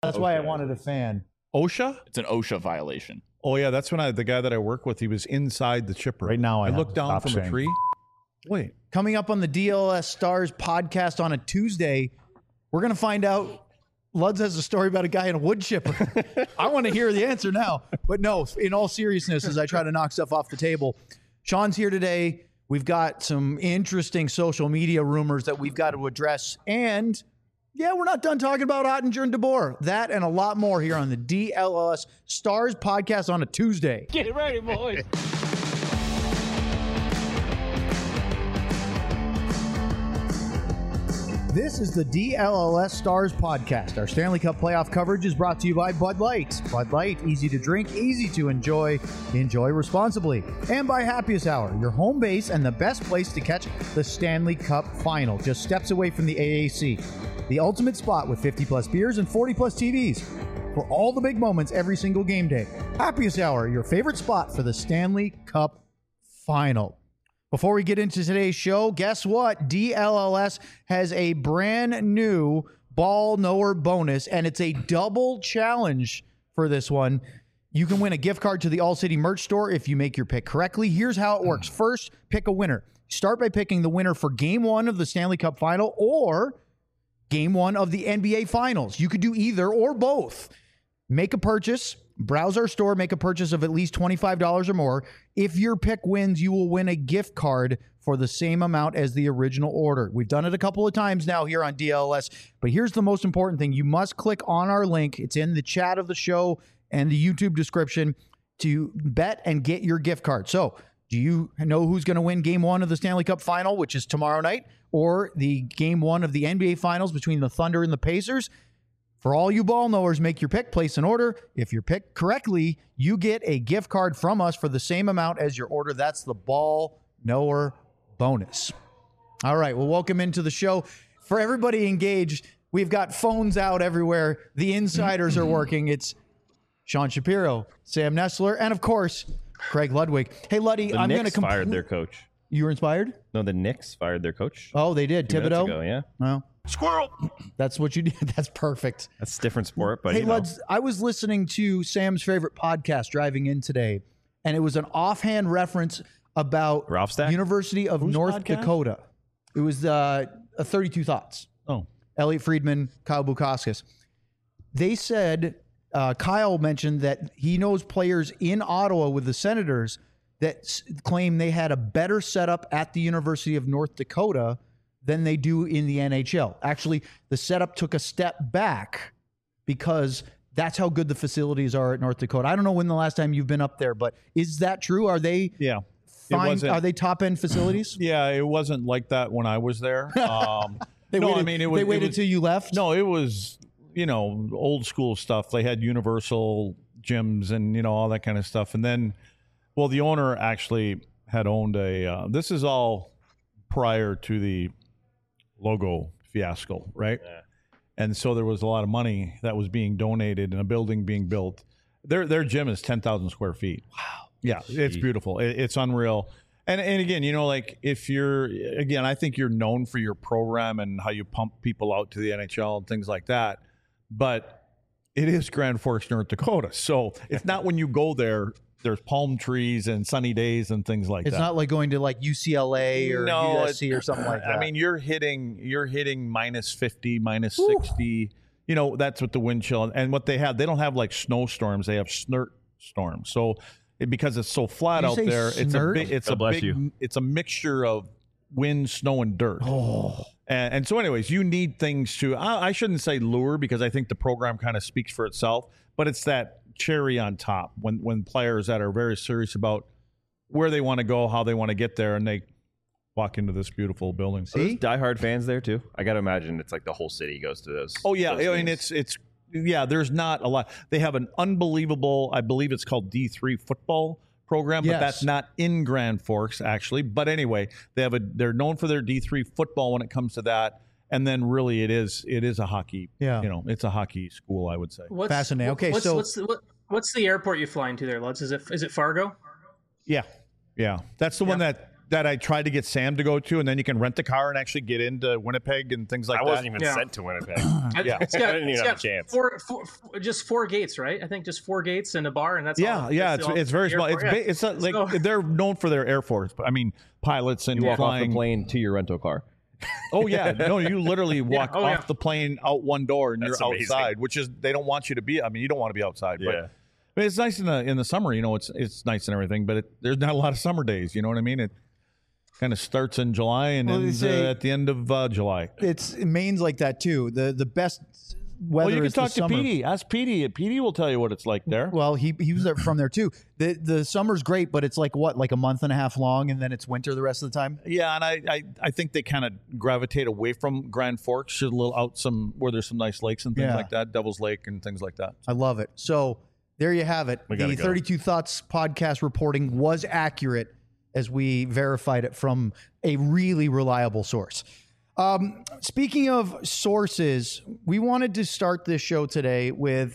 That's why I wanted a fan. OSHA? It's an OSHA violation. Oh, yeah, that's when the guy that I work with, he was inside the chipper. Right now, I looked down from a tree. Wait. Coming up on the DLS Stars podcast on a Tuesday, we're going to find out. Luds has a story about a guy in a wood chipper. I want to hear the answer now. But no, in all seriousness, as I try to knock stuff off the table, Sean's here today. We've got some interesting social media rumors that we've got to address. And, yeah, we're not done talking about Oettinger and DeBoer. That and a lot more here on the DLS Stars podcast on a Tuesday. Get ready, boys. This is the DLLS Stars podcast. Our Stanley Cup playoff coverage is brought to you by Bud Light. Bud Light, easy to drink, easy to enjoy. Enjoy responsibly. And by Happiest Hour, your home base and the best place to catch the Stanley Cup final. Just steps away from the AAC. The ultimate spot with 50-plus beers and 40-plus TVs. For all the big moments every single game day. Happiest Hour, your favorite spot for the Stanley Cup final. Before we get into today's show, guess what? DLLS has a brand new ball knower bonus, and it's a double challenge for this one. You can win a gift card to the All City merch store if you make your pick correctly. Here's how it works. First, pick a winner. Start by picking the winner for Game 1 of the Stanley Cup Final or Game 1 of the NBA Finals. You could do either or both. Make a purchase. Browse our store, make a purchase of at least $25 or more. If your pick wins, you will win a gift card for the same amount as the original order. We've done it a couple of times now here on DLS, but here's the most important thing. You must click on our link. It's in the chat of the show and the YouTube description to bet and get your gift card. So, do you know who's going to win Game 1 of the Stanley Cup Final, which is tomorrow night, or the Game 1 of the NBA Finals between the Thunder and the Pacers? For all you ball knowers, make your pick, place an order. If you pick correctly, you get a gift card from us for the same amount as your order. That's the ball knower bonus. All right, well, welcome into the show. For everybody engaged, we've got phones out everywhere. The insiders are working. It's Sean Shapiro, Sam Nestler, and of course, Craig Ludwig. Hey, Luddy, I'm going to fired their coach. You were inspired? No, the Knicks fired their coach. Oh, they did. Thibodeau? Ago, yeah. Well, Squirrel. that's what you did. That's perfect. That's a different sport, but hey, Luds, I was listening to Sam's favorite podcast driving in today, and it was an offhand reference about Ralph Stack? University of North Dakota. It was 32 Thoughts. Oh. Elliot Friedman, Kyle Bukauskas. They said, Kyle mentioned that he knows players in Ottawa with the Senators that claim they had a better setup at the University of North Dakota than they do in the NHL. Actually, the setup took a step back because that's how good the facilities are at North Dakota. I don't know when the last time you've been up there, but is that true? Are they fine? Are they top-end facilities? Yeah, it wasn't like that when I was there. They waited till you left? No, it was, old school stuff. They had universal gyms and, all that kind of stuff. And then, well, the owner actually had owned this is all prior to the logo fiasco, right? Yeah. And so there was a lot of money that was being donated and a building being built. Their gym is 10,000 square feet. Wow. Yeah, it's beautiful. It's unreal. And again, I think you're known for your program and how you pump people out to the NHL and things like that. But it is Grand Forks, North Dakota. So it's not when you go there, there's palm trees and sunny days and things like that. It's not like going to like UCLA or USC or something like that. I mean, you're hitting minus 50, minus 60. That's what the wind chill. And what they don't have like snowstorms. They have snert storms. So because it's so flat out there, it's a mixture of wind, snow, and dirt. Oh. And so anyways, you need things to, I shouldn't say lure because I think the program kind of speaks for itself, but it's that cherry on top when players that are very serious about where they want to go, how they want to get there, and they walk into this beautiful building. See, diehard fans there too. I got to imagine it's like the whole city goes to those. Oh yeah, those I mean games. it's there's not a lot. They have an unbelievable, I believe it's called D3 football program, but that's not in Grand Forks actually. But anyway, they're known for their D3 football when it comes to that. And then really it is a hockey, it's a hockey school, I would say. Fascinating. Okay, what's the airport you fly into there, Lutz? Is it Fargo? Yeah. That's the one that that I tried to get Sam to go to, and then you can rent the car and actually get into Winnipeg and things like that. I wasn't even sent to Winnipeg. Yeah. It's got, I didn't even have a chance. Just four gates, right? I think just 4 gates and a bar, and that's Yeah, all. yeah, That's it's very small. It's not like they're known for their Air Force. I mean, pilots and You walk off the flying. plane to your rental car. Oh yeah, no, you literally walk off the plane out one door and That's you're amazing. outside, which is they don't want you to be. I mean, you don't want to be outside, Yeah. but it's nice in the summer. You know, it's nice and everything, but there's not a lot of summer days. You know what I mean? It kind of starts in July and ends at the end of July. It's Maine's like that too. The best weather. Well, you can is the talk to summer. Petey. Ask Petey. Petey will tell you what it's like there. Well, he was there from there too. The summer's great, but it's like a month and a half long, and then it's winter the rest of the time. Yeah, and I think they kind of gravitate away from Grand Forks, a little out some where there's some nice lakes and things like that, Devil's Lake and things like that. I love it. So there you have it. The gotta go. 32 Thoughts podcast reporting was accurate as we verified it from a really reliable source. Speaking of sources, we wanted to start this show today with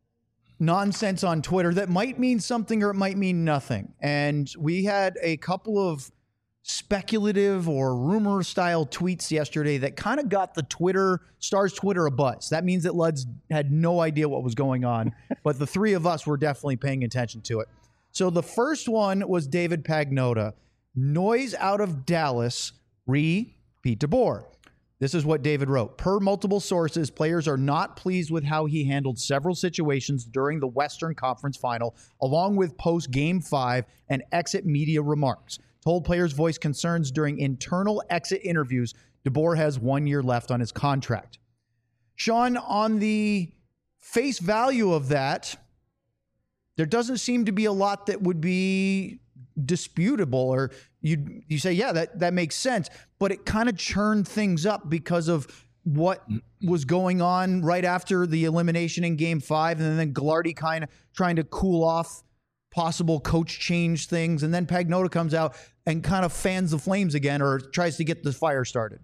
nonsense on Twitter that might mean something or it might mean nothing. And we had a couple of speculative or rumor style tweets yesterday that kind of got the Stars Twitter a buzz. That means that Luds had no idea what was going on, but the three of us were definitely paying attention to it. So the first one was David Pagnotta. Noise out of Dallas, Pete DeBoer. This is what David wrote. Per multiple sources, players are not pleased with how he handled several situations during the Western Conference Final, along with post-Game 5 and exit media remarks. Told players voice concerns during internal exit interviews. DeBoer has 1 year left on his contract. Sean, on the face value of that, there doesn't seem to be a lot that would be disputable, or you say, yeah, that makes sense, but it kind of churned things up because of what was going on right after the elimination in Game 5, and then Glardy kind of trying to cool off possible coach change things, and then Pagnotta comes out and kind of fans the flames again, or tries to get the fire started.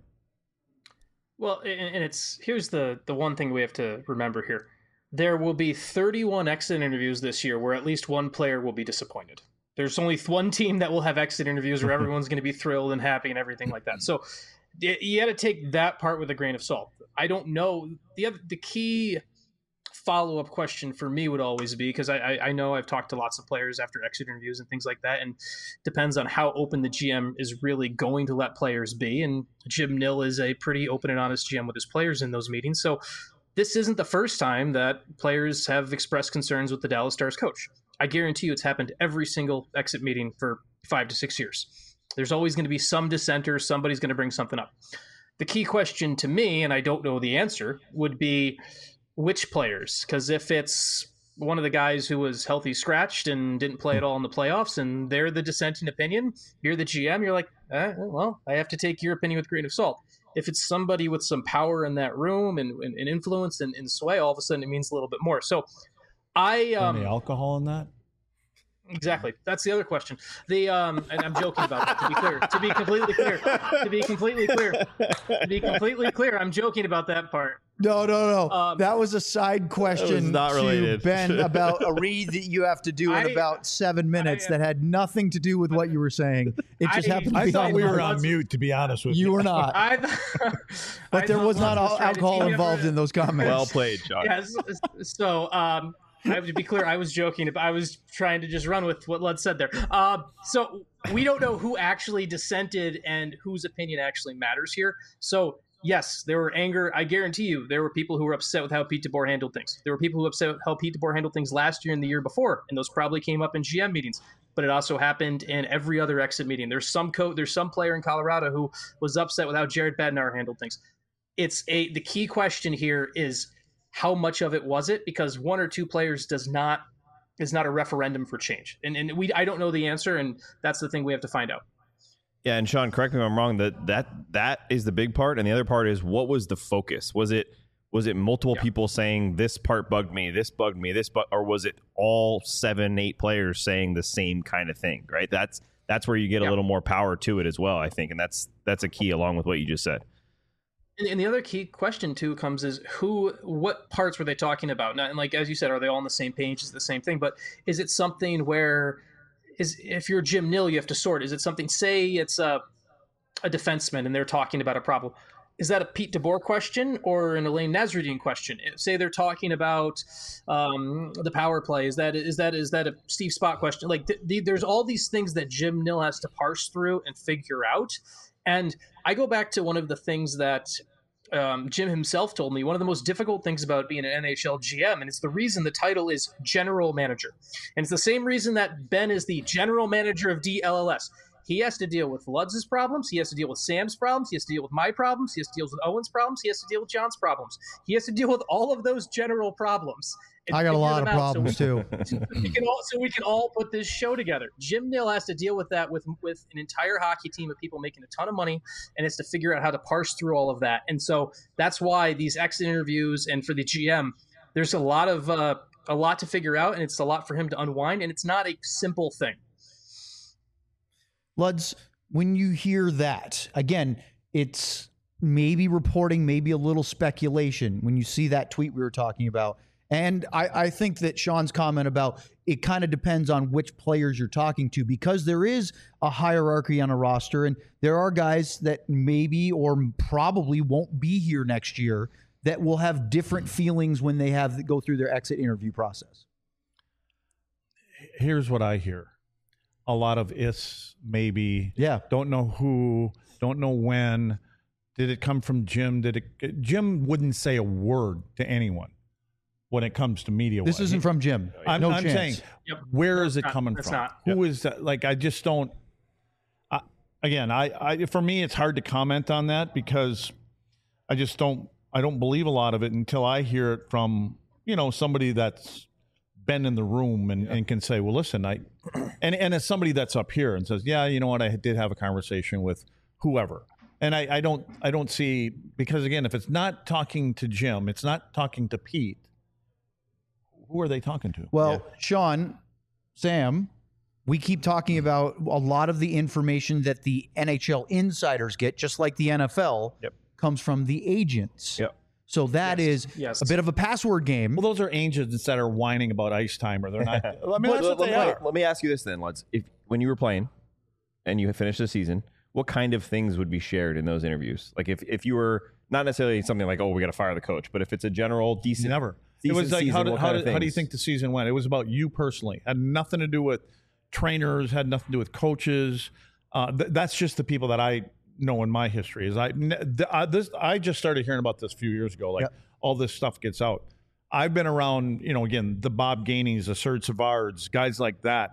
Well, and here's the one thing we have to remember here. There will be 31 exit interviews this year where at least one player will be disappointed. There's only one team that will have exit interviews where everyone's going to be thrilled and happy and everything like that. So you got to take that part with a grain of salt. I don't know. The key follow-up question for me would always be, because I know I've talked to lots of players after exit interviews and things like that, and depends on how open the GM is really going to let players be. And Jim Nill is a pretty open and honest GM with his players in those meetings. So this isn't the first time that players have expressed concerns with the Dallas Stars coach. I guarantee you it's happened every single exit meeting for 5 to 6 years. There's always going to be some dissenter. Somebody's going to bring something up. The key question to me, and I don't know the answer, would be which players? Because if it's one of the guys who was healthy scratched and didn't play at all in the playoffs, and they're the dissenting opinion, you're the GM, you're like, well, I have to take your opinion with a grain of salt. If it's somebody with some power in that room and influence and sway, all of a sudden it means a little bit more. So Any alcohol in that? Exactly. That's the other question. And I'm joking about that, to be clear. To be completely clear, I'm joking about that part. No. That was a side question not to related. Ben about a read that you have to do in about 7 minutes that had nothing to do with what you were saying. It just happened to be I thought on we the were notes. on mute, to be honest with you. You were not. But there was not alcohol involved in those comments. Well played, John. Yes. So, I have to be clear. I was joking. I was trying to just run with what Lud said there. So we don't know who actually dissented and whose opinion actually matters here. So yes, there were anger. I guarantee you there were people who were upset with how Pete DeBoer handled things. There were people who were upset with how Pete DeBoer handled things last year and the year before, and those probably came up in GM meetings. But it also happened in every other exit meeting. There's some player in Colorado who was upset with how Jared Bednar handled things. The key question here is, how much of it was it? Because one or two players is not a referendum for change. And I don't know the answer, and that's the thing we have to find out. Yeah, and Sean, correct me if I'm wrong, that is the big part, and the other part is, what was the focus? Was it multiple people saying this part bugged me, or was it all 7-8 players saying the same kind of thing, right? That's where you get a little more power to it as well, I think, and that's a key along with what you just said. And the other key question too comes is what parts were they talking about? Now, and like as you said, are they all on the same page? Is it the same thing? But is it something where if you're Jim Nill, you have to sort. Is it something, say it's a defenseman and they're talking about a problem. Is that a Pete DeBoer question or an Elaine Nasruddin question? Say they're talking about the power play. Is that a Steve Spott question? Like there's all these things that Jim Nill has to parse through and figure out. And I go back to one of the things that Jim himself told me. One of the most difficult things about being an NHL GM, and it's the reason the title is general manager, and it's the same reason that Ben is the general manager of DLLS. He has to deal with Ludz's problems. He has to deal with Sam's problems. He has to deal with my problems. He has to deal with Owen's problems. He has to deal with John's problems. He has to deal with all of those general problems. I got a lot of problems too. So we can all put this show together. Jim Nill has to deal with that with an entire hockey team of people making a ton of money, and it's to figure out how to parse through all of that. And so that's why these exit interviews, and for the GM, there's a lot to figure out, and it's a lot for him to unwind, and it's not a simple thing. Luds, when you hear that, again, it's maybe reporting, maybe a little speculation when you see that tweet we were talking about. And I think that Sean's comment about it kind of depends on which players you're talking to, because there is a hierarchy on a roster, and there are guys that maybe or probably won't be here next year that will have different feelings when they have to go through their exit interview process. Here's what I hear. A lot of ifs, maybe. Yeah. Don't know who, don't know when. Did it come from Jim? Jim wouldn't say a word to anyone when it comes to media. This isn't from Jim. I'm chance. saying, where is it coming from? Not. Who is that? Like, I just don't. Again, for me, it's hard to comment on that because I just don't. I don't believe a lot of it until I hear it from somebody that's been in the room and can say, well, listen, and as somebody that's up here and says, yeah, you know what, I did have a conversation with whoever. And I don't see, because again, if it's not talking to Jim, it's not talking to Pete, who are they talking to? Well, Sean, Sam, we keep talking about a lot of the information that the NHL insiders get, just like the NFL, comes from the agents. Yep. So that is a bit of a password game. Well, those are agents that are whining about ice time, or they're not. I mean, that's what they are. Let me ask you this then, Lutz. When you were playing and you finished the season, what kind of things would be shared in those interviews? Like if you were not necessarily something like, oh, we got to fire the coach, but if it's a general decent, it was like, season, how do you think the season went? It was about you personally. Had nothing to do with trainers. Had nothing to do with coaches. That's just the people that I know in my history. Is I just started hearing about this a few years ago. Like all this stuff gets out. I've been around, again, the Bob Gaineys, the Serge Savards, guys like that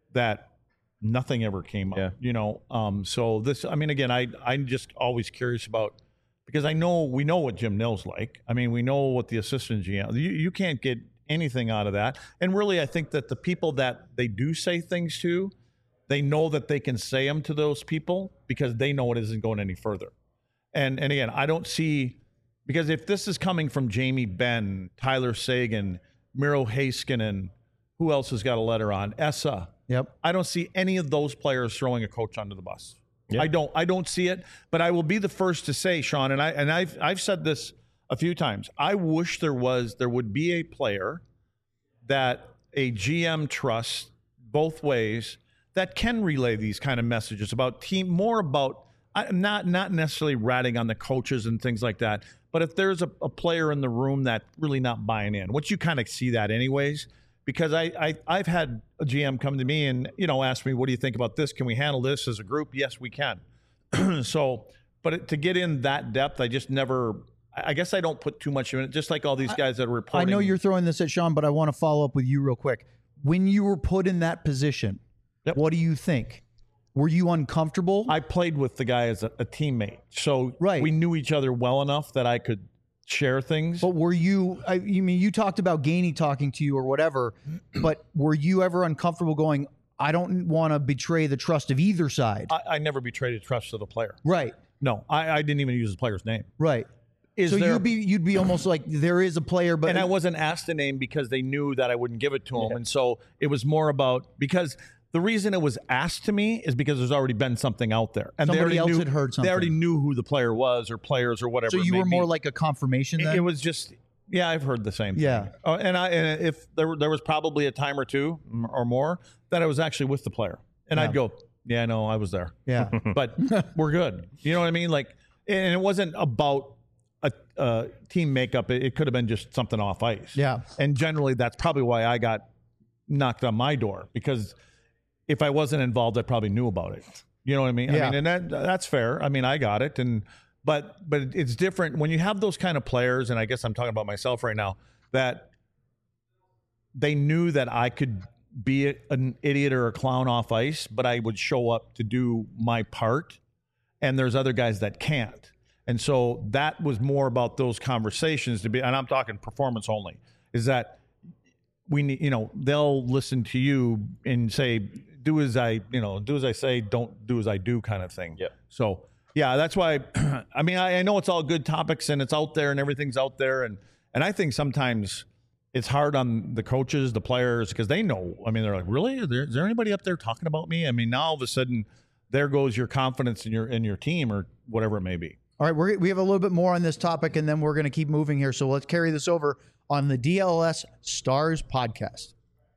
nothing ever came up. So this, I mean, again, I'm just always curious about, because we know what Jim Nill's like. I mean, we know what the assistant GM, you can't get anything out of that. And really, I think that the people that they do say things to, they know that they can say them to those people because they know it isn't going any further. And again, I don't see, because if this is coming from Jamie Benn, Tyler Seguin, Miro Heiskanen, who else has got a letter on? Essa. Yep. I don't see any of those players throwing a coach under the bus. Yep. I don't see it, but I will be the first to say, Sean, and I've said this a few times. I wish there would be a player that a GM trusts both ways that can relay these kind of messages about team, more about not necessarily ratting on the coaches and things like that, but if there's a player in the room that's really not buying in, which you kind of see that anyways, because I've had a GM come to me and ask me, what do you think about this? Can we handle this as a group? Yes, we can. So, but to get in that depth, I just never. I guess I don't put too much in it. Just like all these guys that are reporting. I know you're throwing this at Sean, but I want to follow up with you real quick. When you were put in that position, what do you think? Were you uncomfortable? I played with the guy as a teammate, so we knew each other well enough that I could share things. But were you? You talked about Gainey talking to you or whatever, but were you ever uncomfortable going, I don't want to betray the trust of either side? I never betrayed the trust of the player. Right. No, I didn't even use the player's name. Right. You'd be almost like there is a player, but I wasn't asked the name because they knew that I wouldn't give it to him, and so it was more about because. The reason it was asked to me is because there's already been something out there. And somebody else had heard something. They already knew who the player was or players or whatever. So you were more like a confirmation then? It was just, Yeah, I've heard the same thing. Yeah. Oh, and if there was probably a time or two or more that I was actually with the player, and I'd go, yeah, no, I was there. Yeah. But we're good. You know what I mean? Like, and it wasn't about a team makeup. It could have been just something off ice. Yeah. And generally, that's probably why I got knocked on my door, because if I wasn't involved, I probably knew about it. You know what I mean? Yeah. I mean, and that's fair. I mean, I got it, but it's different when you have those kind of players, and I guess I'm talking about myself right now, that they knew that I could be an idiot or a clown off ice, but I would show up to do my part, and there's other guys that can't. And so that was more about those conversations and I'm talking performance only, is that we need, they'll listen to you and say, do as I say, don't do as I do kind of thing. Yeah. So yeah, that's why, I mean, I know it's all good topics and it's out there and everything's out there. And I think sometimes it's hard on the coaches, the players, because they know, I mean, they're like, really? Is there anybody up there talking about me? I mean, now all of a sudden there goes your confidence in your team or whatever it may be. All right, we have a little bit more on this topic, and then we're going to keep moving here. So let's carry this over on the DLS Stars podcast.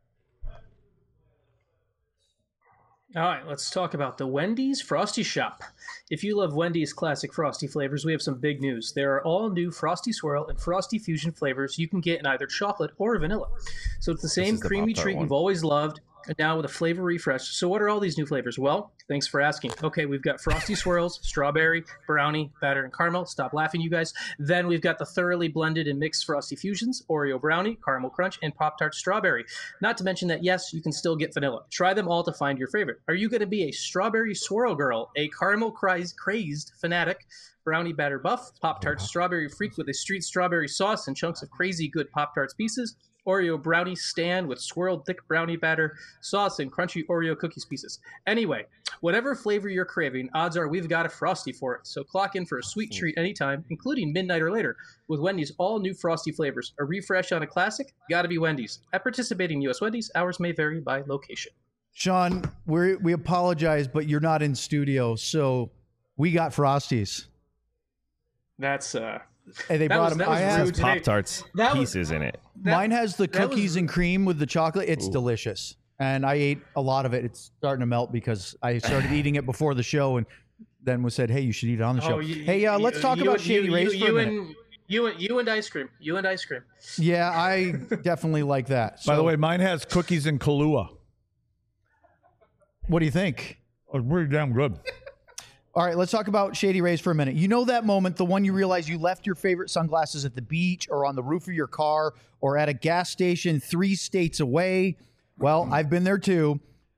All right, let's talk about the Wendy's Frosty Shop. If you love Wendy's classic Frosty flavors, we have some big news. There are all new Frosty Swirl and Frosty Fusion flavors you can get in either chocolate or vanilla. So it's the same creamy treat you've always loved, and now with a flavor refresh. So what are all these new flavors? Well, thanks for asking. Okay, we've got Frosty Swirls, strawberry, brownie, batter, and caramel. Stop laughing, you guys. Then we've got the thoroughly blended and mixed Frosty Fusions, Oreo brownie, caramel crunch, and Pop-Tart strawberry. Not to mention that, yes, you can still get vanilla. Try them all to find your favorite. Are you going to be a strawberry swirl girl, a caramel crazed fanatic, brownie batter buff, Pop-Tart strawberry freak with a street strawberry sauce and chunks of crazy good Pop-Tarts pieces, Oreo brownie stand with swirled thick brownie batter, sauce, and crunchy Oreo cookies pieces. Anyway, whatever flavor you're craving, odds are we've got a Frosty for it. So clock in for a sweet treat anytime, including midnight or later, with Wendy's all new Frosty flavors. A refresh on a classic? Gotta be Wendy's. At participating U.S. Wendy's, hours may vary by location. Sean, we apologize, but you're not in studio, so we got Frosties. That's Hey, they brought them. I have Pop-Tarts pieces in it. Mine has the cookies and cream with the chocolate. It's delicious. And I ate a lot of it. It's starting to melt because I started eating it before the show and then was said, hey, you should eat it on the show. Let's talk about Shady Rays for a minute. You and ice cream. You and ice cream. Yeah, I definitely like that. By the way, mine has cookies and Kahlua. What do you think? It's pretty damn good. All right, let's talk about Shady Rays for a minute. You know that moment, the one you realize you left your favorite sunglasses at the beach or on the roof of your car or at a gas station 3 states away? Well, I've been there too.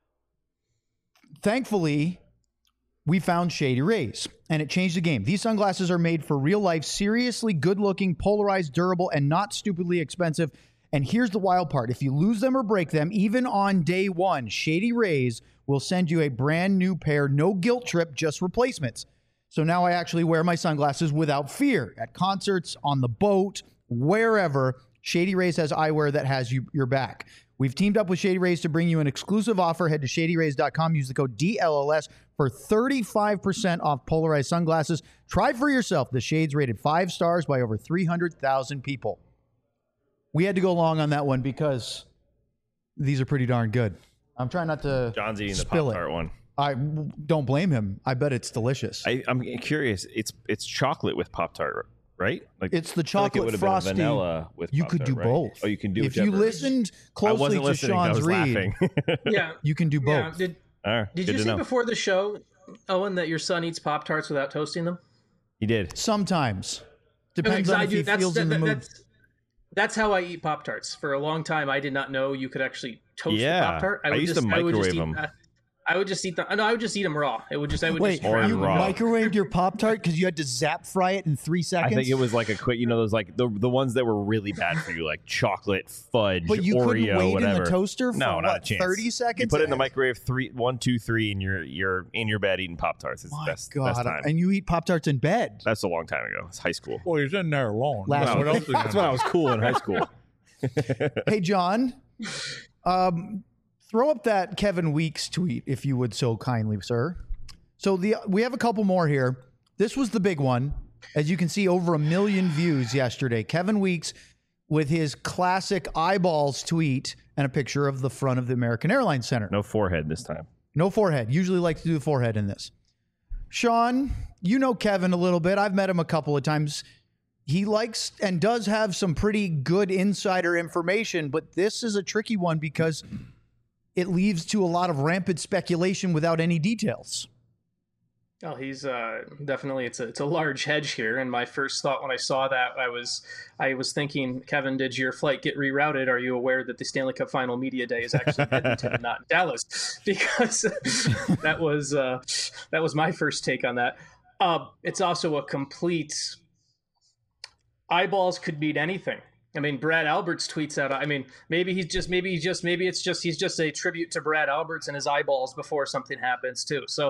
Thankfully, we found Shady Rays, and it changed the game. These sunglasses are made for real life, seriously good-looking, polarized, durable, and not stupidly expensive. And here's the wild part. If you lose them or break them, even on day one, Shady Rays will send you a brand new pair, no guilt trip, just replacements. So now I actually wear my sunglasses without fear. At concerts, on the boat, wherever, Shady Rays has eyewear that has your back. We've teamed up with Shady Rays to bring you an exclusive offer. Head to shadyrays.com. Use the code DLLS for 35% off polarized sunglasses. Try for yourself. The shades rated 5 stars by over 300,000 people. We had to go long on that one because these are pretty darn good. I'm trying not to John's eating the spill Pop-Tart one. I don't blame him. I bet it's delicious. I'm curious. It's chocolate with Pop-Tart, right? Like, It's the I feel like chocolate it frosty. been vanilla with You Pop-Tart, could do right? both. Oh, you can do if you whichever. listened I closely wasn't to listening. I Sean's was read, laughing. Yeah. you can do Yeah. both. Did Good you to say know. before the show, Owen, that your son eats Pop-Tarts without toasting them? He did. Sometimes. Depends Because on I if do. he feels in the mood. That's how I eat Pop-Tarts. For a long time, I did not know you could actually toast Yeah. the Pop-Tart. I used to microwave them. I would just eat them. No, I would just eat them raw. I would Wait, just Or wrap you them. raw. microwaved your Pop-Tart because you had to zap fry it in 3 I seconds? think it was like a quick, those like the ones that were really bad for you, like chocolate, fudge, But you Oreo, couldn't wait whatever. in the toaster for No, not a what, chance. 30 seconds? You put it in the microwave 1, 2, 3, and you're in your bed eating Pop-Tarts. It's My the best God. time. And you eat Pop-Tarts in bed. That's a long time ago. It's high school. Well, he's in there alone. Last What else is he That's gonna when I do? was cool in high school. Hey, John, throw up that Kevin Weeks tweet, if you would so kindly, sir. So we have a couple more here. This was the big one. As you can see, over 1 million views yesterday. Kevin Weeks with his classic eyeballs tweet and a picture of the front of the American Airlines Center. No forehead this time. No forehead. Usually like to do the forehead in this. Sean, you know Kevin a little bit. I've met him a couple of times. He likes and does have some pretty good insider information, but this is a tricky one because it leads to a lot of rampant speculation without any details. Oh, he's definitely it's a large hedge here. And my first thought when I saw that, I was thinking, Kevin, did your flight get rerouted? Are you aware that the Stanley Cup Final Media Day is actually in Edmonton and not in Dallas? Because that was my first take on that. It's also a complete eyeballs could mean anything. I mean, Brad Alberts tweets out. I mean, maybe he's just a tribute to Brad Alberts and his eyeballs before something happens too. So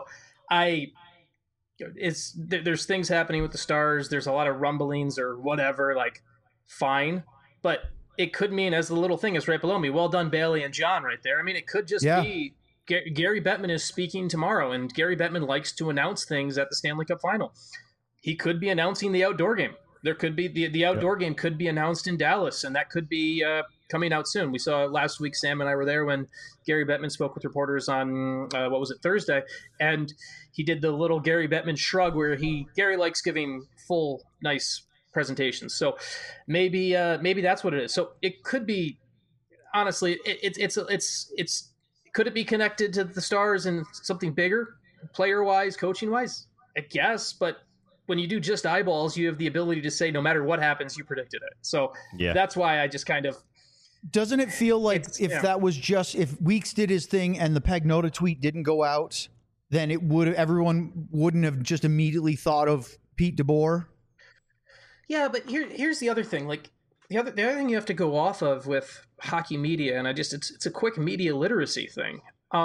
there's things happening with the Stars. There's a lot of rumblings or whatever, like fine, but it could mean, as the little thing is right below me, well done, Bailey and John right there. I mean, it could just be Gary Bettman is speaking tomorrow, and Gary Bettman likes to announce things at the Stanley Cup Final. He could be announcing the outdoor game. There could be the outdoor game could be announced in Dallas, and that could be coming out soon. We saw last week, Sam and I were there when Gary Bettman spoke with reporters on Thursday, and he did the little Gary Bettman shrug where Gary likes giving full, nice presentations. So maybe that's what it is. So it could be, honestly, it's could it be connected to the Stars and something bigger, player wise, coaching wise? I guess, but when you do just eyeballs, you have the ability to say no matter what happens, you predicted it. So that's why I just kind of. Doesn't it feel like that was just if Weeks did his thing and the Pagnotta tweet didn't go out, then everyone wouldn't have just immediately thought of Pete DeBoer? Yeah, but here's the other thing. Like the other thing you have to go off of with hockey media, and it's a quick media literacy thing.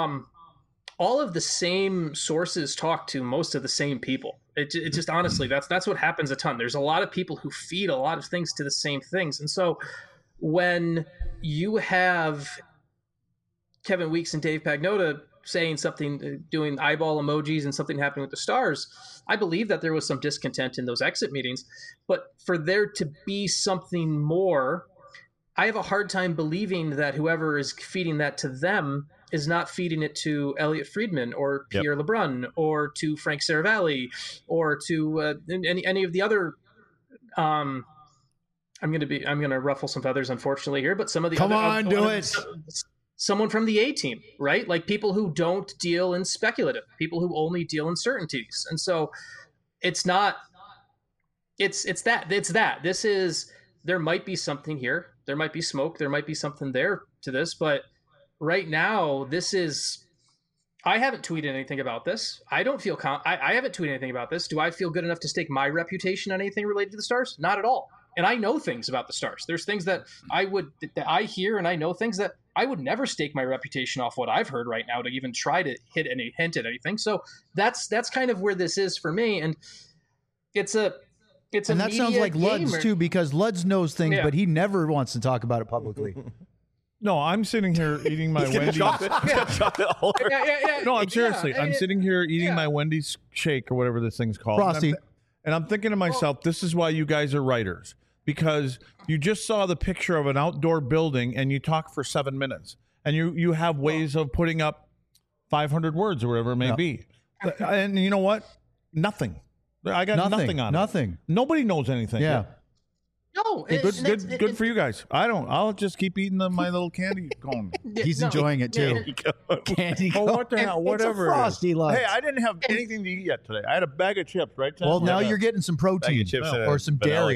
All of the same sources talk to most of the same people. It just honestly, that's what happens a ton. There's a lot of people who feed a lot of things to the same things. And so when you have Kevin Weeks and Dave Pagnotta saying something, doing eyeball emojis and something happening with the Stars, I believe that there was some discontent in those exit meetings. But for there to be something more, I have a hard time believing that whoever is feeding that to them is not feeding it to Elliot Friedman or Pierre LeBrun or to Frank Saravalli or to any of the other. I'm going to ruffle some feathers, unfortunately here, but some of the someone from the A team, right? Like people who don't deal in speculative, people who only deal in certainties, and so it's not. It's that. This is. There might be something here. There might be smoke. There might be something there to this, but. Right now, this is. I haven't tweeted anything about this. I don't feel. I haven't tweeted anything about this. Do I feel good enough to stake my reputation on anything related to the Stars? Not at all. And I know things about the Stars. There's things that I hear, and I know things that I would never stake my reputation off what I've heard right now to even try to hit any hint at anything. So that's kind of where this is for me, and it's a. And that sounds like Luds too, because Luds knows things, but he never wants to talk about it publicly. No, I'm sitting here eating my Wendy's. Chocolate all over. No, I'm seriously. I'm sitting here eating my Wendy's shake or whatever this thing's called. Frosty. And I'm thinking to myself, this is why you guys are writers. Because you just saw the picture of an outdoor building and you talk for 7 minutes. And you have ways of putting up 500 words or whatever it may be. And you know what? Nothing. I got nothing on it. Nothing. Nobody knows anything. Yeah. No, good for you guys. I'll just keep eating my little candy cone. He's enjoying it too. Candy cone. Oh, what the hell? Whatever. It's a Frosty Luds. Hey, I didn't have anything to eat yet today. I had a bag of chips, right? Well, now you're getting some protein or some dairy.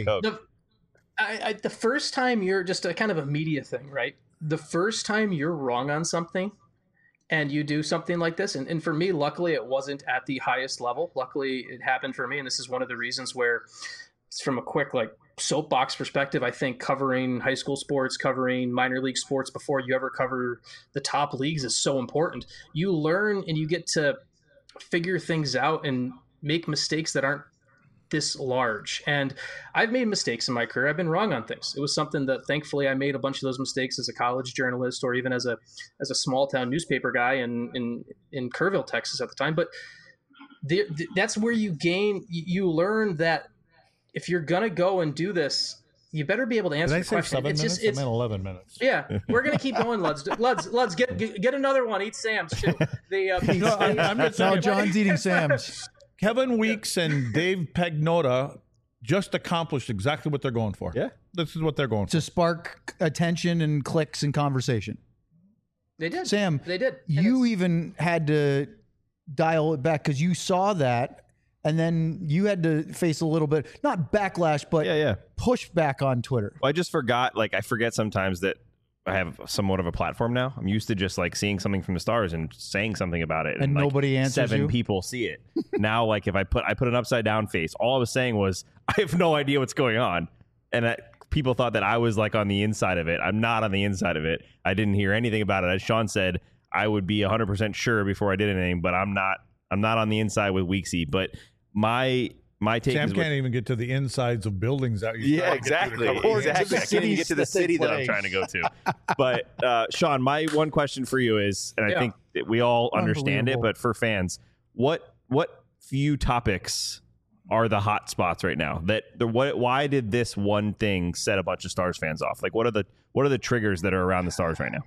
The first time you're just a kind of a media thing, right? The first time you're wrong on something and you do something like this, and for me, luckily, it wasn't at the highest level. Luckily, it happened for me, and this is one of the reasons where it's from a quick, soapbox perspective, I think covering high school sports, covering minor league sports before you ever cover the top leagues is so important. You learn and you get to figure things out and make mistakes that aren't this large. And I've made mistakes in my career. I've been wrong on things. It was something that thankfully I made a bunch of those mistakes as a college journalist or even as a small town newspaper guy in Kerrville, Texas at the time. But that's where you learn that if you're going to go and do this, you better be able to answer Did I the say question. 7 It's minutes? just, it's, I meant 11 minutes. yeah, we're gonna keep going, Luds. Luds, get another one. Eat Sam's too. No, I'm just No, saying, John's eating Sam's. Kevin Weeks and Dave Pagnotta just accomplished exactly what they're going for. Yeah. This is what they're going for. To spark attention and clicks and conversation. They did. Sam, They did. And you it's- even had to dial it back because you saw that, and then you had to face a little bit, not backlash, but Yeah. pushback on Twitter. Well, I just forgot. Like, I forget sometimes that I have somewhat of a platform now. I'm used to just like seeing something from the Stars and saying something about it, And like, nobody answers 7 you? people see it. Now, like, if I put an upside down face, all I was saying was I have no idea what's going on, and people thought that I was like on the inside of it. I'm not on the inside of it. I didn't hear anything about it. As Sean said, I would be 100% sure before I did anything, but I'm not on the inside with Weeksy. But my take Sam is can't even get to the insides of buildings out. yeah, exactly. Or to the Exactly. I can't even get to the cities that they city that I'm play. trying to go to. But Sean, my one question for you is, and I Yeah. think that we all understand it, Unbelievable. but for fans, what few topics are the hot spots right now? Why did this one thing set a bunch of Stars fans off? Like, what are the triggers that are around the Stars right now?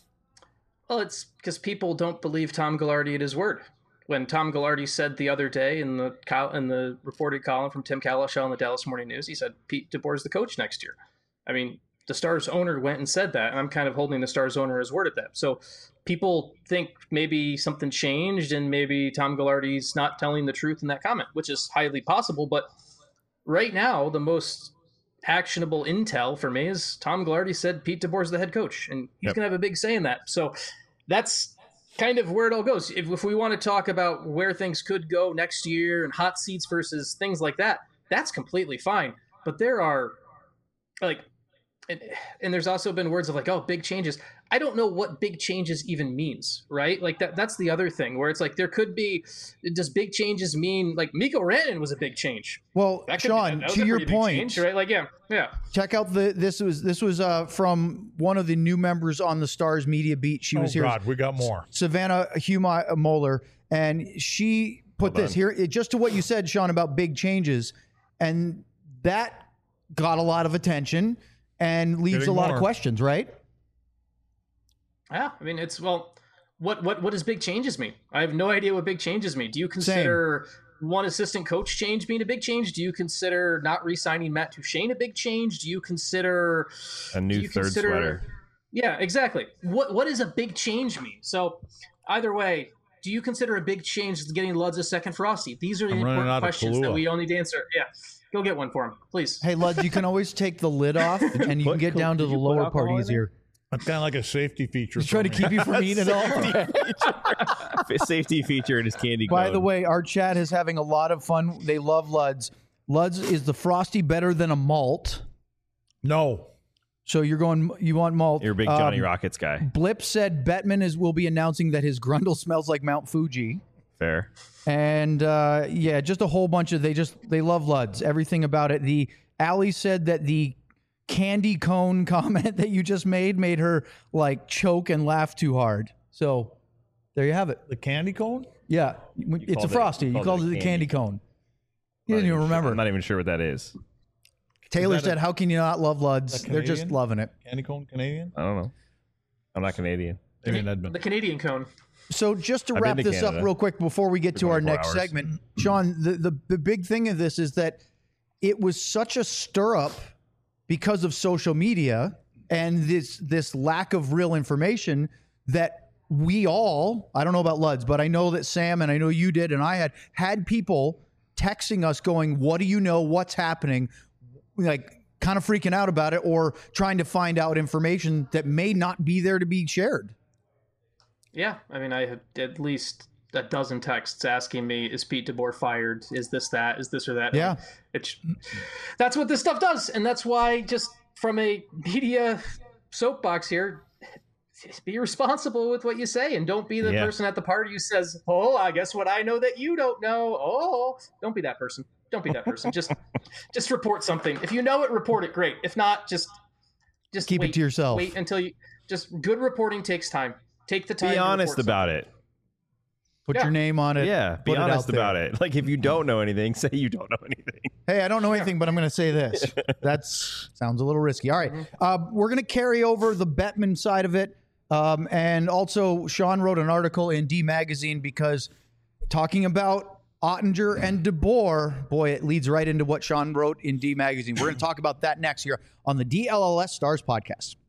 Well, it's because people don't believe Tom Ghilardi at his word. When Tom Ghilardi said the other day in the reported column from Tim Cowlishaw in the Dallas Morning News, he said Pete DeBoer is the coach next year. I mean, the Stars owner went and said that, and I'm kind of holding the Stars owner as word at that. So people think maybe something changed and maybe Tom Ghilardi's not telling the truth in that comment, which is highly possible. But right now, the most actionable intel for me is Tom Ghilardi said Pete DeBoer's the head coach, and he's going to have a big say in that. So that's kind of where it all goes. If we want to talk about where things could go next year and hot seats versus things like that, that's completely fine. But there are like, and there's also been words of like, oh, big changes. I don't know what big changes even means, right? Like that's the other thing where it's like there could be, does big changes mean like Mikko Rantanen was a big change? Well, That could Sean, that was to a your pretty big point, change, right? Like, yeah. check out this was from one of the new members on the Stars media beat. She was Oh here, God, we got more. Savannah Huma Moeller, and she put Well this done. here just to what you said, Sean, about big changes, and that got a lot of attention and leaves Getting a lot more. of questions, right? Yeah, I mean, it's, well, what does big changes mean? I have no idea what big changes mean. Do you consider one assistant coach change being a big change? Do you consider not re-signing Matt Duchene a big change? Do you consider A new third sweater. Yeah, exactly. What does a big change mean? So either way, do you consider a big change getting Luds a second Frosty? These are the I'm running important out of questions that Kahlua. we all need to answer. Yeah, go get one for him, please. Hey, Luds, you can always take the lid off, and you can put get down to did the you put lower alcohol part in easier. That's kind of like a safety feature. He's trying to keep you from eating it all. Safety feature in his candy By cone. the way, our chat is having a lot of fun. They love Luds. Luds, is the Frosty better than a malt? No. So you want malt. You're a big Johnny Rockets guy. Blip said Bettman will be announcing that his Grundle smells like Mount Fuji. Fair. And yeah, just a whole bunch of they love Luds. Everything about it. The Allie said that the candy cone comment that you just made her like choke and laugh too hard. So there you have it. The candy cone? Yeah, it's a called it- Frosty. you You called called it it a the candy candy. cone. You didn't even remember. I'm not even sure what that is. Taylor Is that said, "How can you not love Luds? a They're just Canadian? loving it." Candy cone Canadian? I don't know. I'm not Canadian. Maybe in Edmonton. The Canadian cone. So just to I've wrap been to this up Canada real quick before we get to our 24 next hours. segment, Sean, the big thing of this is that it was such a stir up because of social media and this lack of real information that we all, I don't know about Luds, but I know that Sam and I know you did and I had people texting us going, "What do you know? What's happening?" Like kind of freaking out about it or trying to find out information that may not be there to be shared. Yeah, I mean, I had at least a dozen texts asking me, "Is Pete DeBoer fired? Is this that? Is this or that?" Yeah. That's what this stuff does, and that's why, just from a media soapbox here, be responsible with what you say, and don't be the Yeah. person at the party who says, "Oh, I guess what I know that you don't know." Oh, don't be that person. Don't be that person. Just report something. If you know it, report it. Great. If not, just Keep it wait, to yourself. Wait until you. Just good reporting takes time. Take the time. Be to honest report about it. Put Yeah. your name on it. Yeah, be put honest it out there. about it. Like if you don't know anything, say you don't know anything. Hey, I don't know anything, but I'm going to say this. Sounds a little risky. All right. We're going to carry over the Bettman side of it. And also, Sean wrote an article in D Magazine because talking about Ottinger and DeBoer, boy, it leads right into what Sean wrote in D Magazine. We're going to talk about that next here on the DLLS Stars podcast.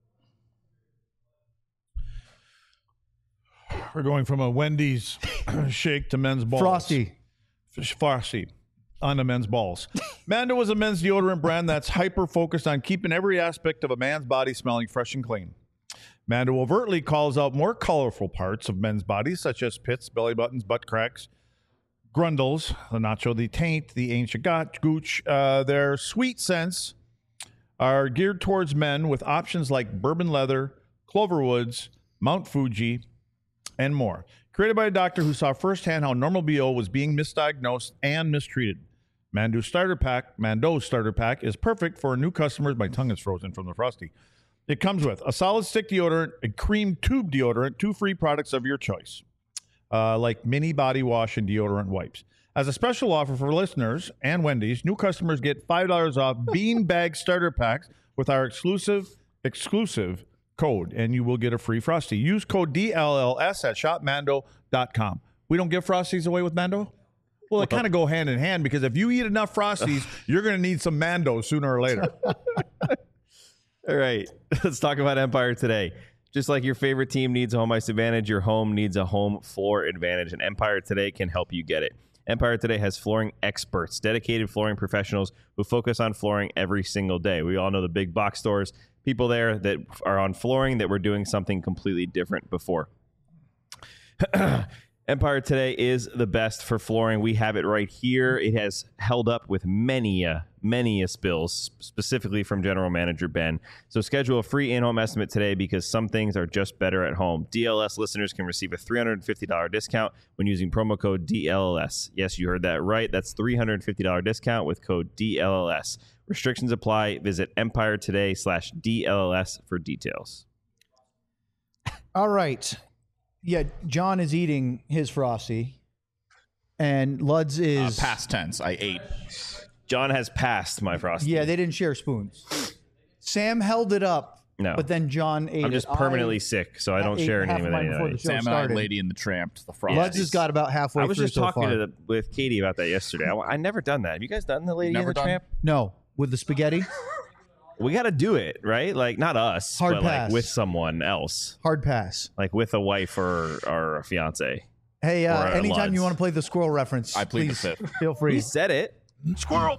We're going from a Wendy's shake to men's balls. Frosty on the men's balls. Mando is a men's deodorant brand that's hyper-focused on keeping every aspect of a man's body smelling fresh and clean. Mando overtly calls out more colorful parts of men's bodies, such as pits, belly buttons, butt cracks, grundles, the nacho, the taint, the ancient gooch. Their sweet scents are geared towards men with options like bourbon leather, Cloverwoods, Mount Fuji, and more. Created by a doctor who saw firsthand how normal BO was being misdiagnosed and mistreated. Mando's starter pack is perfect for new customers. My tongue is frozen from the Frosty. It comes with a solid stick deodorant, a cream tube deodorant, 2 free products of your choice, like mini body wash and deodorant wipes. As a special offer for listeners and Wendy's, new customers get $5 off bean bag starter packs with our exclusive code, and you will get a free Frosty. Use code DLLS at shopmando.com. We don't give Frosties away with Mando? Well, they kind of go hand in hand because if you eat enough Frosties, you're going to need some Mando sooner or later. All right, let's talk about Empire Today. Just like your favorite team needs a home ice advantage, your home needs a home floor advantage, and Empire Today can help you get it. Empire Today has flooring experts, dedicated flooring professionals who focus on flooring every single day. We all know the big box stores, people there that are on flooring that were doing something completely different before. Empire Today is the best for flooring. We have it right here. It has held up with many spills, specifically from General Manager Ben. So schedule a free in-home estimate today because some things are just better at home. DLS listeners can receive a $350 discount when using promo code DLLS. Yes, you heard that right. That's $350 discount with code DLLS. Restrictions apply. Visit EmpireToday/DLLS for details. All right. Yeah, John is eating his Frosty, and Luds is... past tense. I ate. John has passed my Frosty. Yeah, they didn't share spoons. Sam held it up, No. but then John ate it. I'm just permanently sick, so I don't ate share half anything of with mine before anybody. the show Sam and I, started. Lady and the Tramp, the Frosties. Luds has got about halfway I was through just so talking far. with Katie about that yesterday. I never done that. Have you guys done the Lady Never and the done. Tramp? No, with the spaghetti, We got to do it, right? Like not us, Hard but pass. like with someone else, hard pass. like with a wife or a fiance. Hey, Or a anytime Luds. you want to play the squirrel reference, I plead the please fifth. feel free. He said it. Squirrel.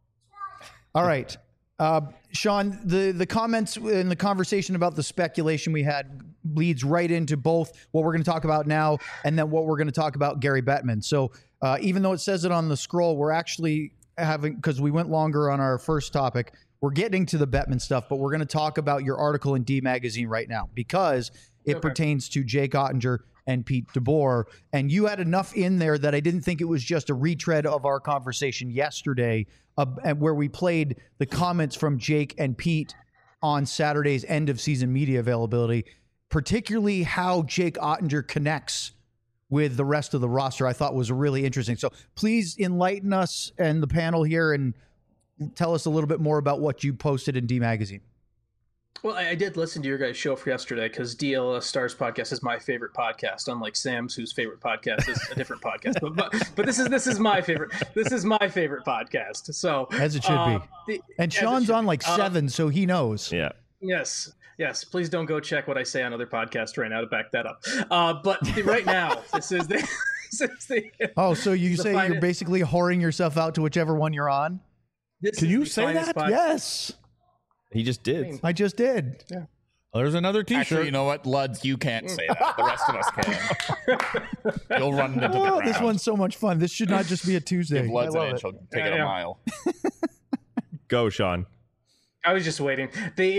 All right. Sean, the comments and the conversation about the speculation we had leads right into both what we're going to talk about now and then what we're going to talk about Gary Bettman. So even though it says it on the scroll, we're actually having, because we went longer on our first topic, we're getting to the Bettman stuff, but we're going to talk about your article in D Magazine right now because it pertains to Jake Ottinger and Pete DeBoer. And you had enough in there that I didn't think it was just a retread of our conversation yesterday where we played the comments from Jake and Pete on Saturday's end of season media availability, particularly how Jake Ottinger connects with the rest of the roster. I thought was really interesting. So please enlighten us and the panel here and tell us a little bit more about what you posted in D Magazine. Well, I did listen to your guys' show for yesterday because DLS Stars podcast is my favorite podcast, unlike Sam's, whose favorite podcast is a different podcast. But this is my favorite. This is my favorite podcast. So As it should be. And Sean's on like 7, so he knows. Yeah. Yes. Please don't go check what I say on other podcasts right now to back that up. But right now, this is the. Oh, so you say finest- you're basically whoring yourself out to whichever one you're on? Can you say that? Yes, He just did. I just did. There's another T-shirt. Actually, you know what, Luds, you can't say that. The rest of us can. You'll run into the Oh, ground. this one's so much fun. This should not just be a Tuesday. Give Luds I an love inch, it. he'll take it a Yeah. mile. Go, Sean. I was just waiting.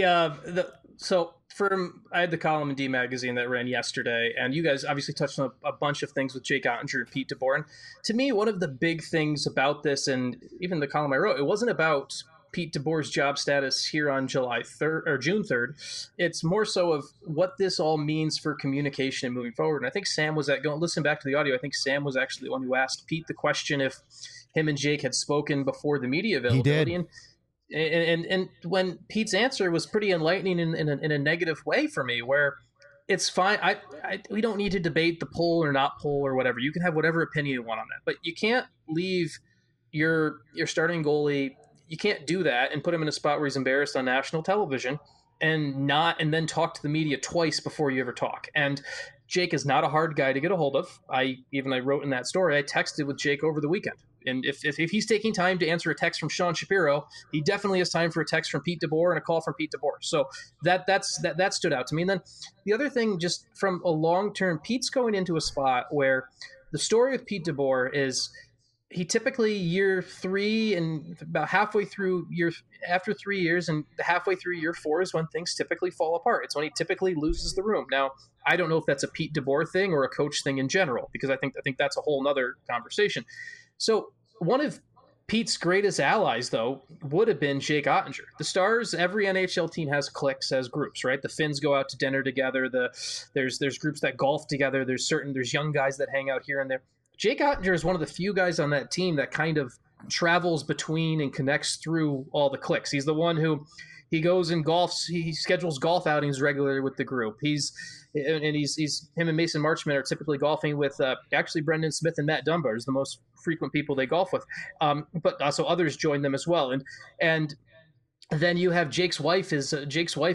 I had the column in D Magazine that ran yesterday, and you guys obviously touched on a bunch of things with Jake Ottinger and Pete DeBoer. And to me, one of the big things about this, and even the column I wrote, it wasn't about Pete DeBoer's job status here on July 3rd or June 3rd. It's more so of what this all means for communication and moving forward. And I think Sam was listen back to the audio. I think Sam was actually the one who asked Pete the question if him and Jake had spoken before the media availability. He did. And when Pete's answer was pretty enlightening in a negative way for me, where it's fine. We don't need to debate the pull or not pull or whatever. You can have whatever opinion you want on that, but you can't leave your starting goalie. You can't do that and put him in a spot where he's embarrassed on national television and then talk to the media twice before you ever talk. And Jake is not a hard guy to get a hold of. I wrote in that story, I texted with Jake over the weekend. And if he's taking time to answer a text from Sean Shapiro, he definitely has time for a text from Pete DeBoer and a call from Pete DeBoer. So that stood out to me. And then the other thing, just from a long term, Pete's going into a spot where the story with Pete DeBoer is he typically year 3 and about halfway through after 3 years and halfway through year 4 is when things typically fall apart. It's when he typically loses the room. Now, I don't know if that's a Pete DeBoer thing or a coach thing in general, because I think that's a whole nother conversation. So one of Pete's greatest allies, though, would have been Jake Ottinger. The Stars, every NHL team has cliques, has groups, right? The Finns go out to dinner together. There's groups that golf together. There's young guys that hang out here and there. Jake Ottinger is one of the few guys on that team that kind of travels between and connects through all the cliques. He's the one who he goes and golfs. He schedules golf outings regularly with the group. He's him and Mason Marchment are typically golfing with actually Brendan Smith and Matt Dunbar is the most frequent people they golf with. But also others join them as well. And then you have Jake's wife has a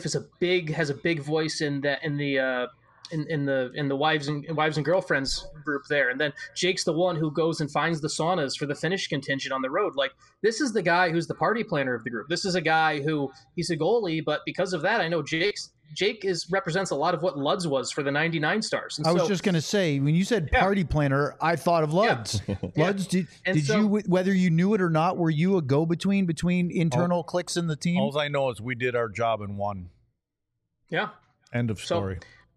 big voice in the wives and girlfriends group there. And then Jake's the one who goes and finds the saunas for the Finnish contingent on the road. Like, this is the guy who's the party planner of the group. This is a guy who he's a goalie, but because of that, I know Jake represents a lot of what Luds was for the 99 Stars. And I was just going to say, when you said party planner, I thought of Luds. Yeah. Luds, did you, whether you knew it or not, were you a go-between between internal cliques in the team? All I know is we did our job and won. Yeah. End of story.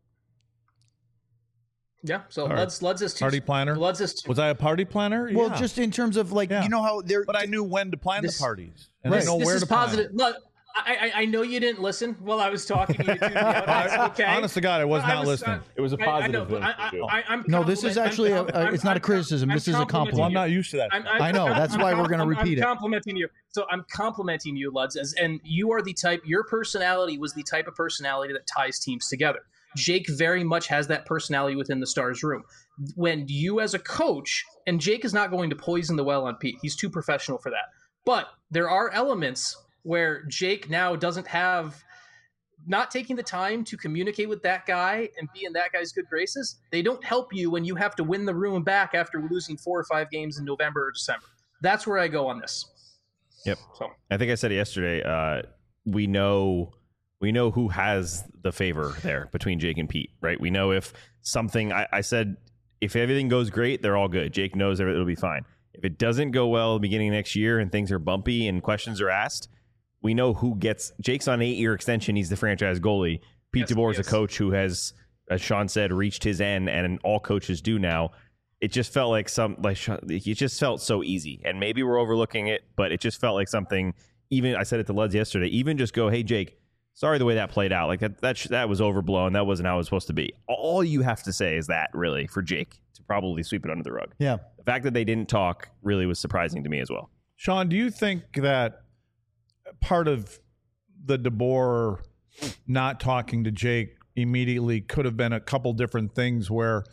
Yeah, so Luds is party planner. Luds is was I a party planner? Well, Yeah. just in terms of you know how they're. But I knew when to plan the parties, and Right. I know this where is to plan. positive. Look, I know you didn't listen while I was talking to you. Okay. Honest to God, I was not listening. It was a positive thing. No, this is actually it's not a criticism. This is a compliment. Well, I'm not used to that. I know. That's why we're going to repeat it. I'm complimenting you. So I'm complimenting you, Luds, and you are the type. Your personality was the type of personality that ties teams together. Jake very much has that personality within the Stars room. When you as a coach, and Jake is not going to poison the well on Pete. He's too professional for that. But there are elements where Jake now doesn't have, not taking the time to communicate with that guy and be in that guy's good graces. They don't help you when you have to win the room back after losing 4 or 5 games in November or December. That's where I go on this. Yep. So I think I said it yesterday. We know who has the favor there between Jake and Pete, right? We know if something, I said, if everything goes great, they're all good. Jake knows it'll be fine. If it doesn't go well at the beginning of next year and things are bumpy and questions are asked, we know who gets. Jake's on an 8-year extension. He's the franchise goalie. Pete DeBoer is a coach who has, as Sean said, reached his end, and all coaches do now. It just felt like it just felt so easy, and maybe we're overlooking it, but it just felt like something. Even I said it to Luds yesterday. Even just go, hey Jake, sorry the way that played out. Like that was overblown. That wasn't how it was supposed to be. All you have to say is that, really, for Jake to probably sweep it under the rug. Yeah. The fact that they didn't talk really was surprising to me as well. Sean, do you think that part of the DeBoer not talking to Jake immediately could have been a couple different things, where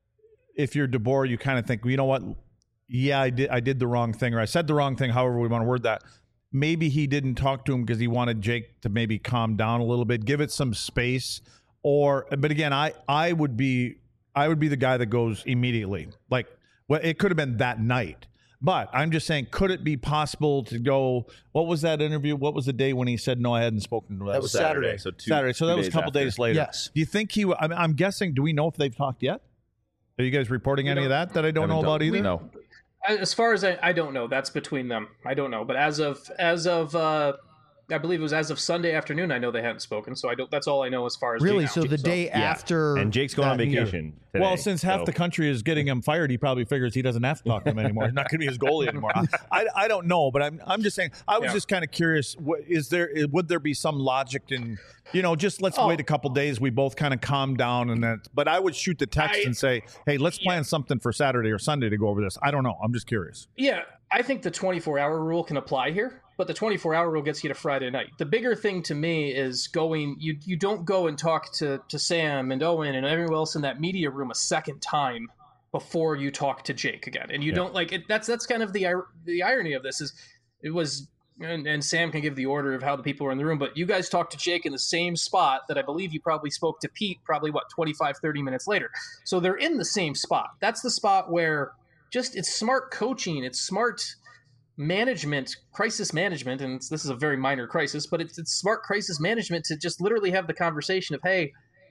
if you're DeBoer, you kind of think, well, you know what? Yeah, I did the wrong thing, or I said the wrong thing, however we want to word that. Maybe he didn't talk to him because he wanted Jake to maybe calm down a little bit, give it some space. But again, I would be the guy that goes immediately. Like, well, it could have been that night. But I'm just saying, could it be possible to go, what was that interview? What was the day when he said, no, I hadn't spoken to him? That was Saturday. Saturday. So that was a couple days later. Yes. Do you think I'm guessing, do we know if they've talked yet? Are you guys reporting any of that I don't know about either? No. As far as I don't know. That's between them. I don't know. But as of I believe it was as of Sunday afternoon. I know they hadn't spoken, so I don't. That's all I know as far as Really? Jake So out. the day Yeah. after, And Jake's going on that meeting. vacation today. Well, since half the country is getting him fired, he probably figures he doesn't have to talk to him anymore. He's not going to be his goalie anymore. I don't know, but I'm just saying. I was just kind of curious. Would there be some logic in just let's wait a couple days. We both kind of calm down, and then. But I would shoot the text and say, hey, let's plan something for Saturday or Sunday to go over this. I don't know. I'm just curious. Yeah, I think the 24-hour rule can apply here, but the 24-hour rule gets you to Friday night. The bigger thing to me is going. You don't go and talk to Sam and Owen and everyone else in that media room a second time before you talk to Jake again, and you don't like it. That's kind of the irony of this is it was. And Sam can give the order of how the people were in the room, but you guys talked to Jake in the same spot that I believe you probably spoke to Pete 25, 30 minutes later. So they're in the same spot. That's the spot where it's smart coaching, it's smart management, crisis management, and this is a very minor crisis, but it's smart crisis management to just literally have the conversation of, hey,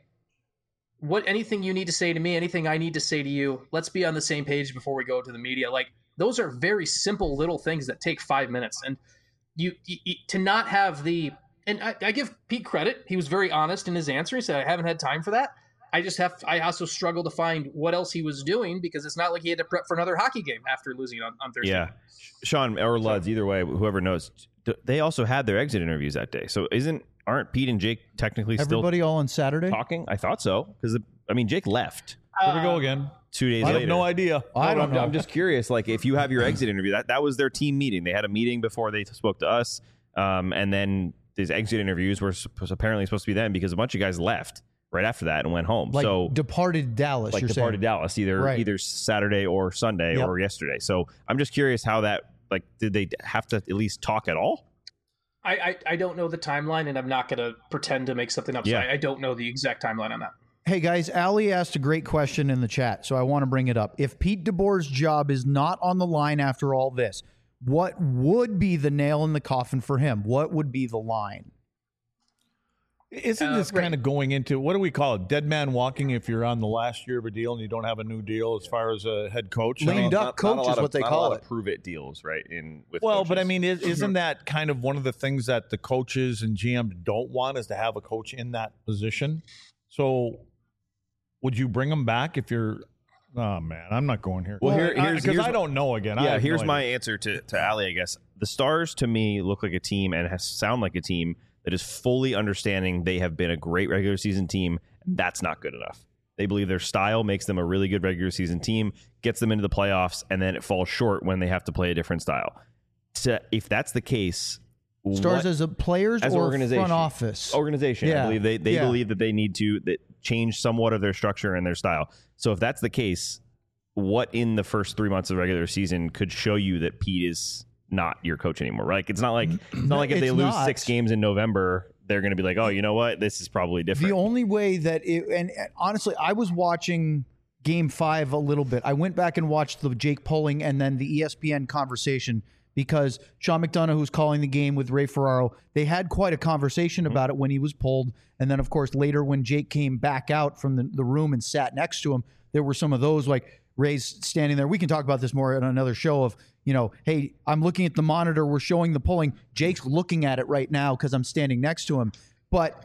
anything you need to say to me, anything I need to say to you, let's be on the same page before we go to the media. Like, those are very simple little things that take 5 minutes. And you to not have and I give Pete credit. He was very honest in his answer. He said, I haven't had time for that. I also struggle to find what else he was doing because it's not like he had to prep for another hockey game after losing on Thursday. Yeah. Sean or Luds, either way, whoever knows, they also had their exit interviews that day. So aren't Pete and Jake technically Everybody all on Saturday? still talking? I thought so. Because, Jake left Here we go again. 2 days I later. have no idea. I don't know. I'm just curious, like, if you have your exit interview, that was their team meeting. They had a meeting before they spoke to us. And then these exit interviews were apparently supposed to be them because a bunch of guys left right after that and went home. Like so departed Dallas, like you're departed saying. Dallas either Saturday or Sunday Yep. or yesterday. So I'm just curious how that, like, did they have to at least talk at all? I don't know the timeline, and I'm not going to pretend to make something up. Yeah. So I don't know the exact timeline on that. Hey guys, Ali asked a great question in the chat, so I want to bring it up. If Pete DeBoer's job is not on the line after all this, what would be the nail in the coffin for him? What would be the line? Isn't this kind of going into, what do we call it, dead man walking if you're on the last year of a deal and you don't have a new deal as far as a head coach? Lame duck coach is what they call it. Prove it deals, right? With Well, coaches. but I mean, isn't that kind of one of the things that the coaches and GMs don't want is to have a coach in that position? So would you bring him back if you're, oh man, I'm not going here. Well, because I don't know again. Yeah, here's my answer to Ali, I guess. The Stars, to me, look like a team and sound like a team that is fully understanding they have been a great regular season team. That's not good enough. They believe their style makes them a really good regular season team, gets them into the playoffs, and then it falls short when they have to play a different style. If that's the case, Stars as a players as or organization, front office? Organization. Yeah. I believe they Yeah. believe that they need to change somewhat of their structure and their style. So if that's the case, what in the first 3 months of the regular season could show you that Pete is not your coach anymore? Right? Like, it's not like if they It's lose not. 6 games in November, they're going to be like, oh, you know what? This is probably different. The only way that and honestly, I was watching Game 5 a little bit. I went back and watched the Jake polling and then the ESPN conversation because Sean McDonough, who's calling the game with Ray Ferraro, they had quite a conversation about it when he was pulled. And then, of course, later when Jake came back out from the room and sat next to him, there were some of those, like Ray's standing there. We can talk about this more on another show of, hey, I'm looking at the monitor. We're showing the polling. Jake's looking at it right now because I'm standing next to him. But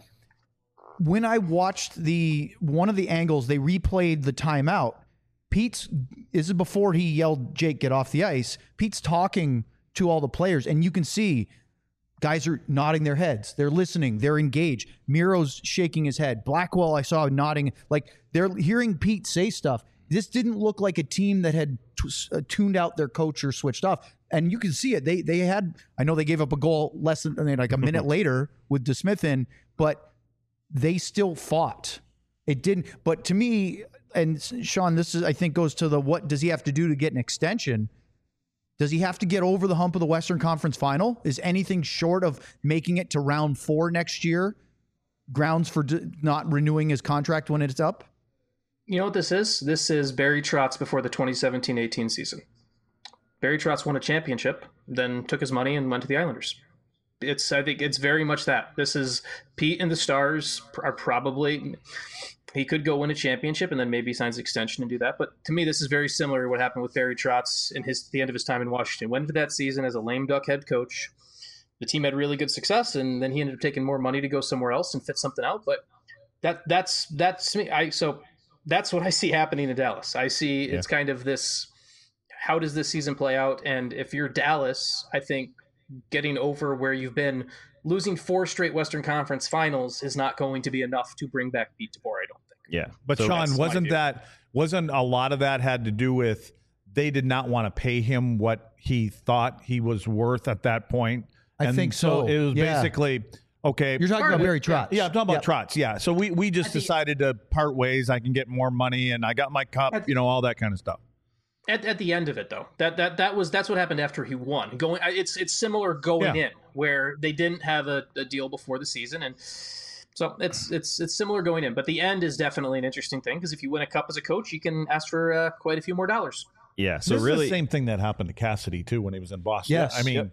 when I watched one of the angles, they replayed the timeout. This is before he yelled, Jake, get off the ice. Pete's talking to all the players, and you can see guys are nodding their heads. They're listening. They're engaged. Miro's shaking his head. Blackwell, I saw nodding. Like, they're hearing Pete say stuff. This didn't look like a team that had tuned out their coach or switched off. And you can see it. They had, I know they gave up a goal less than like a minute later with DeSmith in, but they still fought. It didn't. But to me, and Sean, this is, I think, goes to what does he have to do to get an extension? Does he have to get over the hump of the Western Conference Final? Is anything short of making it to round 4 next year grounds for not renewing his contract when it's up? You know what this is? This is Barry Trotz before the 2017-18 season. Barry Trotz won a championship, then took his money and went to the Islanders. I think it's very much that. This is Pete and the Stars are probably, he could go win a championship and then maybe signs an extension and do that. But to me, this is very similar to what happened with Barry Trotz in the end of his time in Washington. Went into that season as a lame duck head coach, the team had really good success, and then he ended up taking more money to go somewhere else and fit something out. But that's me. So that's what I see happening in Dallas. I see it's kind of this, how does this season play out? And if you're Dallas, I think getting over where you've been, losing 4 straight Western Conference finals is not going to be enough to bring back Pete DeBoer, I don't think. Yeah. But So Sean, that's wasn't a lot of that had to do with they did not want to pay him what he thought he was worth at that point? I think so. It was Yeah. basically, okay. You're talking about Barry Trotz. Yeah, I'm talking about Yep. Trotz. Yeah. So we just decided to part ways. I can get more money and I got my cup, all that kind of stuff. At the end of it, though, that's what happened after he won. It's similar going in, where they didn't have a deal before the season, and so it's similar going in. But the end is definitely an interesting thing, because if you win a cup as a coach, you can ask for quite a few more dollars. Yeah. So This really, is the same thing that happened to Cassidy too when he was in Boston. Yes. I mean,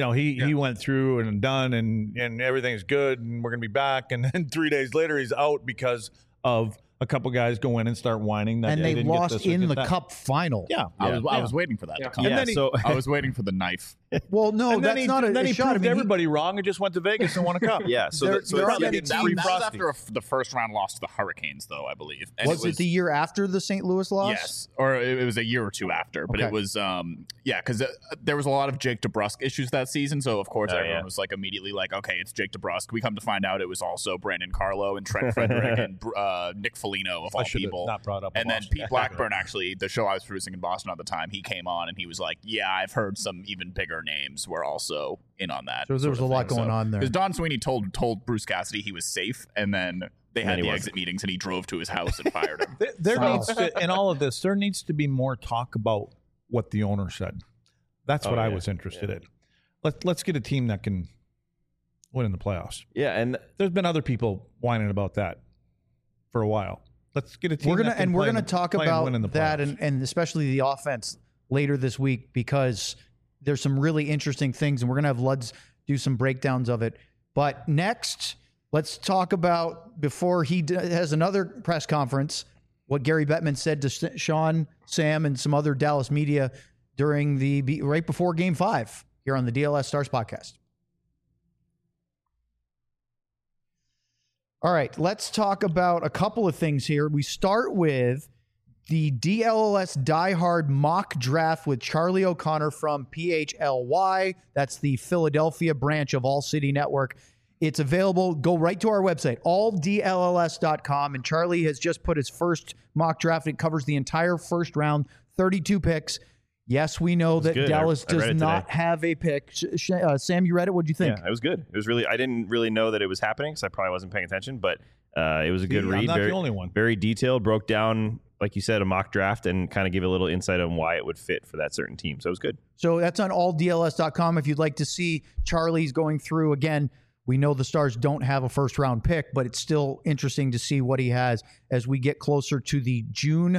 he went through and done, and everything's good, and we're gonna be back, and then 3 days later he's out because of a couple guys go in and start whining that And they didn't get lost this or in get the that. cup final. Yeah. I was waiting for that to come. yeah. then he- So I was waiting for the knife. Well, no, And then that's he, not a then he shot. proved everybody wrong and just went to Vegas and won a cup. yeah. So There- that- so there that's are the- many That teams- was Frosty. after the first round loss to the Hurricanes, though, I believe. And Was it the year after the St. Louis loss? Yes, or it was a year or two after, but Okay. it was because there was a lot of Jake DeBrusk issues that season, so of course everyone was like immediately like, okay, it's Jake DeBrusk. We come to find out it was also Brandon Carlo and Trent Frederick and Nick Foligno of all I should have people. not brought up And then Boston. Pete Blackburn, actually, the show I was producing in Boston at the time, he came on and he was like, "Yeah, I've heard some even bigger names were also in on that." So there was a lot going on there. Because Don Sweeney told Bruce Cassidy he was safe, and then they had he the wasn't. exit meetings, and he drove to his house and fired him. There Wow. needs to, in all of this, there needs to be more talk about what the owner said. That's what I was interested in. Let's get a team that can win in the playoffs. yeah. And There's been other people whining about that for a while. Let's get a team. We're that can gonna play and- talk play and about win in the that playoffs. and especially the offense later this week, because there's some really interesting things, and we're gonna have Luds do some breakdowns of it. But next, let's talk about, before he has another press conference, what Gary Bettman said to Sean, Sam, and some other Dallas media during right before Game 5 here on the DLS Stars podcast. All right, let's talk about a couple of things here. We start with the DLLS Die Hard mock draft with Charlie O'Connor from PHLY. That's the Philadelphia branch of All City Network. It's available. Go right to our website, alldlls.com. And Charlie has just put his first mock draft. It covers the entire first round, 32 picks. Yes, we know that good. Dallas I read does it not today. have a pick. Sam, you read it? What'd you think? yeah, it was good. It was really. I didn't really know that it was happening because I probably wasn't paying attention, but it was a good See, read. I'm not very, the only one. Very detailed. Broke down, like you said, a mock draft and kind of give a little insight on why it would fit for that certain team. So it was good. So that's on alldls.com. If you'd like to see Charlie's going through, again, we know the Stars don't have a first round pick, but it's still interesting to see what he has as we get closer to the June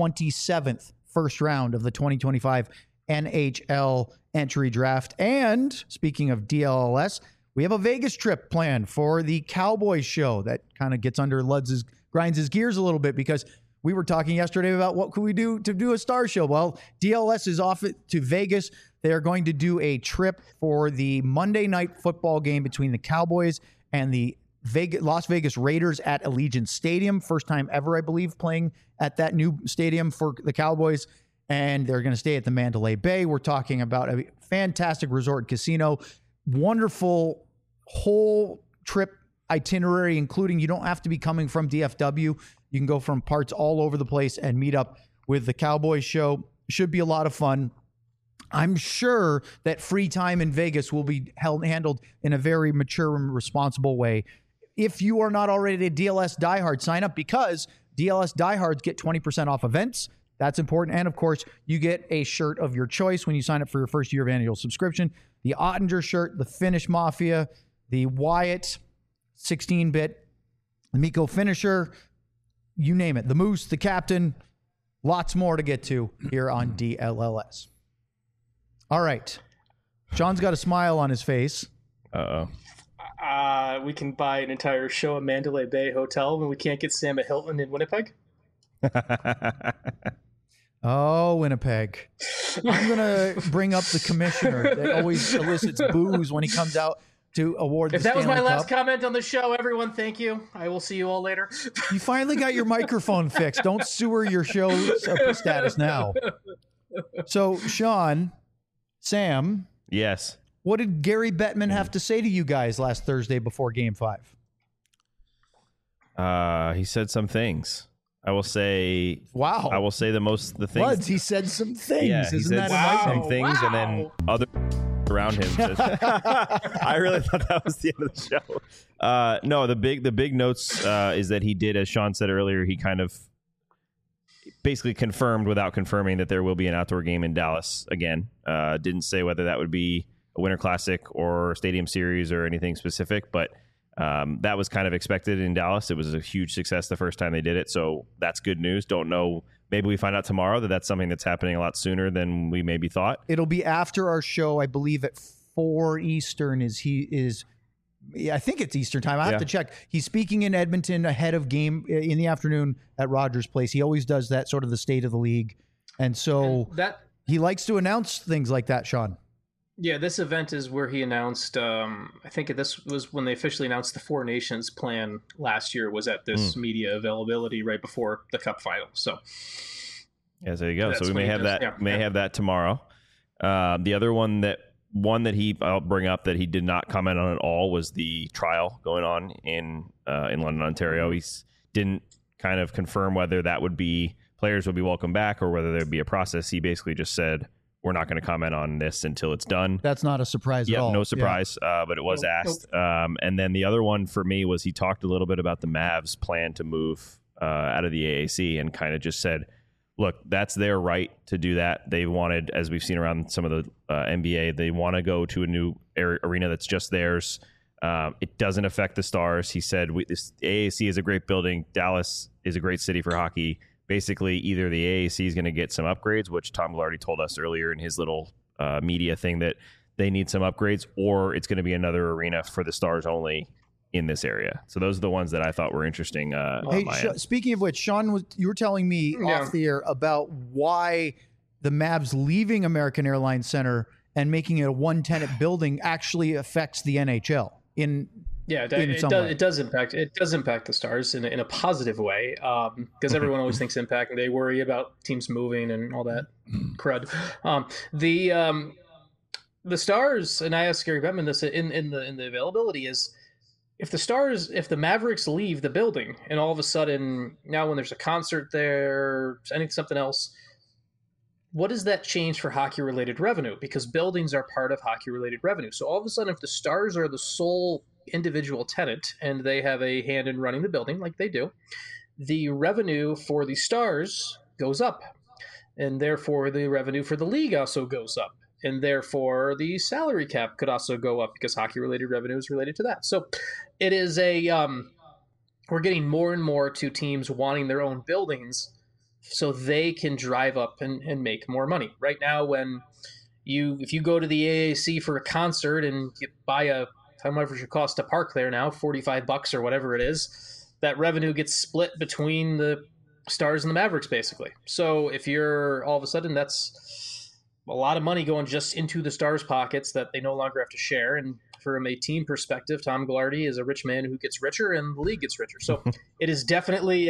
27th first round of the 2025 NHL entry draft. And speaking of DLLS, we have a Vegas trip planned for the Cowboys show that kind of gets under grinds his gears a little bit, because we were talking yesterday about what could we do to do a star show. Well, DLS is off to Vegas. They are going to do a trip for the Monday night football game between the Cowboys and the Las Vegas Raiders at Allegiant Stadium. First time ever, I believe, playing at that new stadium for the Cowboys. And they're going to stay at the Mandalay Bay. We're talking about a fantastic resort casino, wonderful whole trip itinerary, including you don't have to be coming from DFW. You can go from parts all over the place and meet up with the Cowboys show. Should be a lot of fun. I'm sure that free time in Vegas will be handled in a very mature and responsible way. If you are not already a DLS diehard, sign up, because DLS diehards get 20% off events. That's important. And of course, you get a shirt of your choice when you sign up for your first year of annual subscription. The Ottinger shirt, the Finnish Mafia, the Wyatt 16-bit, the Miko Finisher, you name it. The Moose, the Captain, lots more to get to here on DLLS. All right. Sean's got a smile on his face. Uh-oh. We can buy an entire show at Mandalay Bay Hotel when we can't get Sam at Hilton in Winnipeg. Oh, Winnipeg. I'm going to bring up the commissioner that always elicits boos when he comes out to award the If that was Stanley my last Cup. comment on the show, everyone, thank you. I will see you all later. You finally got your microphone fixed. Don't sewer your show status now. So, Sean, Sam, Yes. what did Gary Bettman have to say to you guys last Thursday before Game 5? He said some things. I will say. Wow. I will say the things. Buds, he said some things. Yeah, he Isn't said that some amazing? things, and then other around him. I really thought that was the end of the show. No, the big notes is that he did, as Sean said earlier, he kind of basically confirmed without confirming that there will be an outdoor game in Dallas again. Didn't say whether that would be a Winter Classic or Stadium Series or anything specific, but that was kind of expected in Dallas. It was a huge success the first time they did it, so that's good news. Don't know. Maybe we find out tomorrow that that's something that's happening a lot sooner than we maybe thought. It'll be after our show, I believe, at 4 Eastern. I think it's Eastern time. I have to check. He's speaking in Edmonton ahead of game in the afternoon at Rogers Place. He always does that, sort of the state of the league, and so he likes to announce things like that. Sean. Yeah, this event is where he announced, I think this was when they officially announced the Four Nations plan last year, was at this media availability right before the Cup final. So, yeah, there you go. So we may have that have that tomorrow. The other one that I'll bring up that he did not comment on at all was the trial going on in London, Ontario. He didn't kind of confirm whether that would be players would be welcome back or whether there'd be a process. He basically just said, we're not going to comment on this until it's done. That's not a surprise at all. No surprise, but it was asked. And then the other one for me was he talked a little bit about the Mavs' plan to move out of the AAC and kind of just said, look, that's their right to do that. They wanted, as we've seen around some of the NBA, they want to go to a new arena that's just theirs. It doesn't affect the Stars. He said, this AAC is a great building. Dallas is a great city for hockey. Basically, either the AAC is going to get some upgrades, which Tom Ghilardi told us earlier in his little media thing that they need some upgrades, or it's going to be another arena for the Stars only in this area. So those are the ones that I thought were interesting. Hey, speaking of which, Sean, you were telling me off the air about why the Mavs leaving American Airlines Center and making it a one-tenant building actually affects the NHL it does impact the Stars in a positive way, because everyone always thinks impact and they worry about teams moving and all that crud. The Stars, and I asked Gary Bettman this in the availability, is if the Mavericks leave the building and all of a sudden now when there's a concert there, something else, what does that change for hockey-related revenue? Because buildings are part of hockey-related revenue. So all of a sudden, if the Stars are the sole individual tenant and they have a hand in running the building like they do, the revenue for the Stars goes up. And therefore, the revenue for the league also goes up. And therefore, the salary cap could also go up because hockey-related revenue is related to that. So it is we're getting more and more to teams wanting their own buildings so they can drive up and make more money. Right now, if you go to the AAC for a concert and you buy how much it costs to park there now, $45 or whatever it is, that revenue gets split between the Stars and the Mavericks, basically. So if you're all of a sudden, that's a lot of money going just into the Stars' pockets that they no longer have to share. And from a team perspective, Tom Ghilardi is a rich man who gets richer and the league gets richer. So it is definitely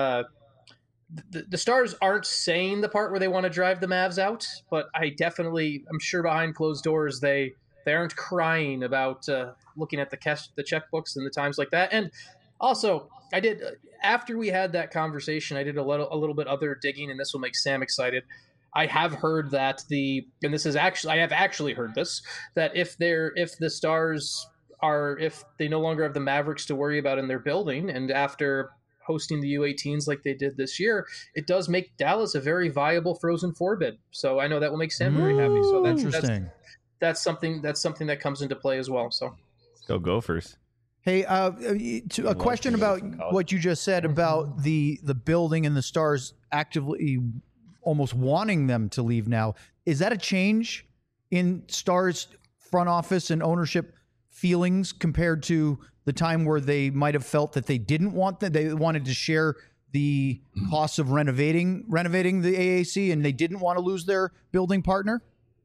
the Stars aren't saying the part where they want to drive the Mavs out, but I'm sure behind closed doors, they aren't crying about looking at the checkbooks and the times like that. And also, after we had that conversation, I did a little bit other digging, and this will make Sam excited. I have heard that I have actually heard this, that if the Stars if they no longer have the Mavericks to worry about in their building, and after hosting the U18s like they did this year, it does make Dallas a very viable Frozen Four bid. So I know that will make Sam very happy. So that's interesting. That's something that comes into play as well. So go Gophers. Hey, a question about what you just said about the building and the Stars actively almost wanting them to leave now. Is that a change in Stars front office and ownership feelings compared to the time where they might have felt that they didn't want that they wanted to share the costs of renovating the AAC, and they didn't want to lose their building partner?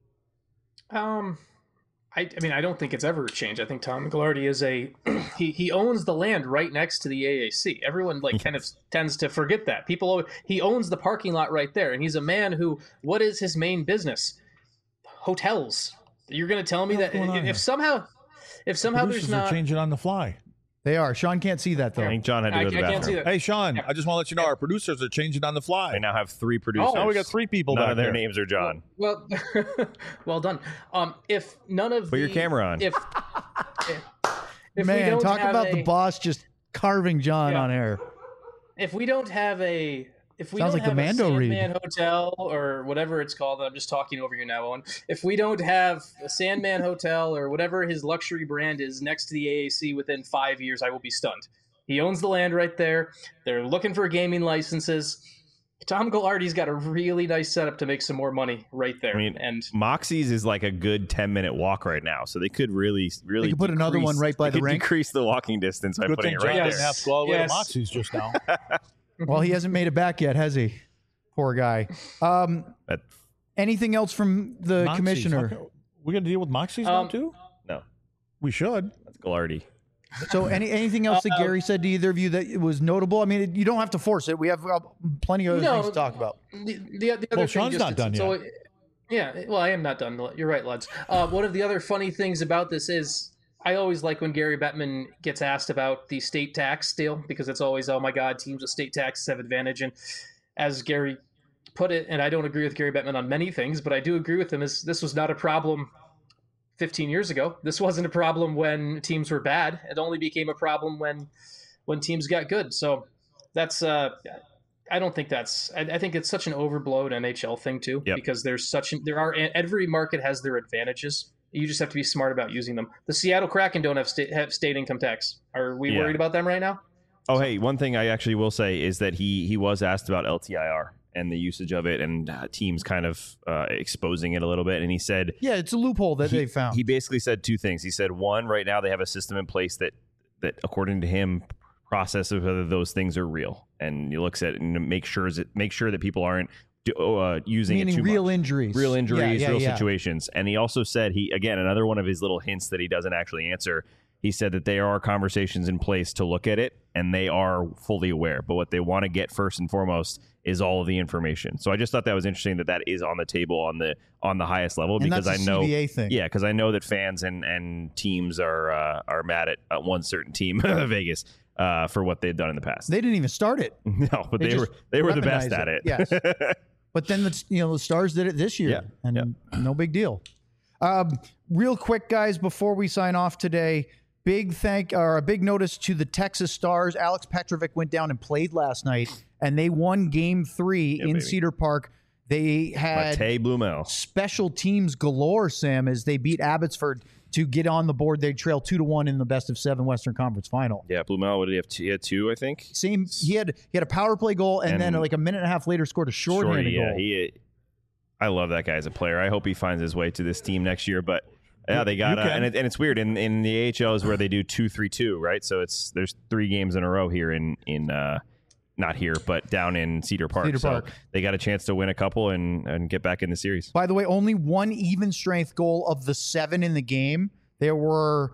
I mean, I don't think it's ever changed. I think Tom Ghilardi is he owns the land right next to the AAC. Everyone kind of tends to forget that. He owns the parking lot right there, and he's a man who, what is his main business? Hotels. You're going to tell me that if somehow there's not They are. Sean can't see that, though. I think John had to go to the bathroom. Can't see that. Hey, Sean, I just want to let you know our producers are changing on the fly. They now have 3 producers. Now we got 3 people. None of their there. names are John. Well, well done. If none of Put your camera on. If Man, we don't talk have about the boss just carving John on air. If we don't have a Sounds don't like the have Mando a read. Sandman Hotel or whatever it's called, I'm just talking over you now, Owen. If we don't have a Sandman Hotel or whatever his luxury brand is next to the AAC within 5 years, I will be stunned. He owns the land right there. They're looking for gaming licenses. Tom Ghilardi's got a really nice setup to make some more money right there. I mean, and Moxie's is like a good 10-minute walk right now, so they could really They could put another one right by the rink. Decrease the walking distance by Good putting thing it right John there. didn't have to go all the way to Yes. Moxie's just now. Well, he hasn't made it back yet, has he? Poor guy. But Anything else from the Moxie's. commissioner? We're going to deal with Moxie's now, too? no, We should. that's Ghilardi. So anything else that Gary said to either of you that was notable? I mean, you don't have to force it. We have plenty of other things to talk about. The other Well, thing Sean's just, not done so, yeah, well, I am not done. You're right, lads. One of the other funny things about this is I always like when Gary Bettman gets asked about the state tax deal, because it's always, oh my God, teams with state taxes have advantage. And as Gary put it, and I don't agree with Gary Bettman on many things, but I do agree with him, is this was not a problem 15 years ago. This wasn't a problem when teams were bad. It only became a problem when teams got good. So that's I don't think that's. I think it's such an overblown NHL thing too, because every market has their advantages. You just have to be smart about using them. The Seattle Kraken don't have state income tax. Are we worried about them right now? Oh, hey, one thing I actually will say is that he was asked about LTIR and the usage of it, and teams kind of exposing it a little bit. And he said, yeah, it's a loophole that they found. He basically said 2 things. He said, one, right now they have a system in place that according to him, processes whether those things are real, and he looks at it and make sure that people aren't using Meaning it too real much. injuries, real situations. And he also said, another one of his little hints that he doesn't actually answer. He said that there are conversations in place to look at it, and they are fully aware. But what they want to get first and foremost is all of the information. So I just thought that was interesting that is on the table on the highest level, And because that's I a know, CBA thing. yeah, because I know that fans and teams are mad at one certain team, Vegas, for what they've done in the past. They didn't even start it. No, but They they were just the best weaponized at it. Yes. But then the Stars did it this year, no big deal. Real quick, guys, before we sign off today, a big notice to the Texas Stars. Alex Petrovic went down and played last night, and they won Game 3 in baby. Cedar Park. They had Matej Blumel. special teams galore, Sam, as they beat Abbotsford to get on the board. They trail 2-1 in the best of 7 Western Conference final. Yeah, Blumel, what did he have? He had 2, I think. Same. He had a power play goal, and then like a minute and a half later scored a shorthanded goal. I love that guy as a player. I hope he finds his way to this team next year. But yeah, they got and it's weird in the AHL is where they do 2-3-2, right? So there's 3 games in a row here in not here, but down in Cedar Park. So they got a chance to win a couple and get back in the series. By the way, only one even strength goal of the 7 in the game. There were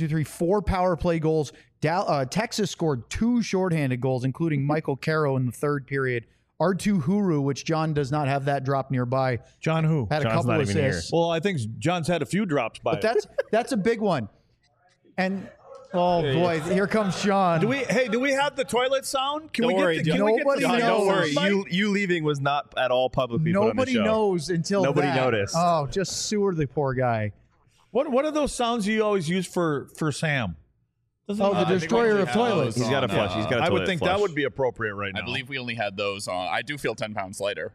4 power play goals. Texas scored 2 shorthanded goals, including Michael Caro in the 3rd period. R2 Huru, which John does not have that drop nearby. John who? Had John's a couple not even here. assists. Well, I think John's had a few drops by But that's a big one. And oh boy, here comes Sean. Do we have the toilet sound? Can Don't we worry, get John. Nobody John, don't knows. worry. You leaving was not at all publicly put on the Nobody show. knows until Nobody that. noticed. Oh, just sewer the poor guy. What are those sounds you always use for Sam? Oh, the destroyer of toilets. He's got a flush. He's got a I would toilet think flush. that would be appropriate right now. I believe we only had those on. I do feel 10 pounds lighter.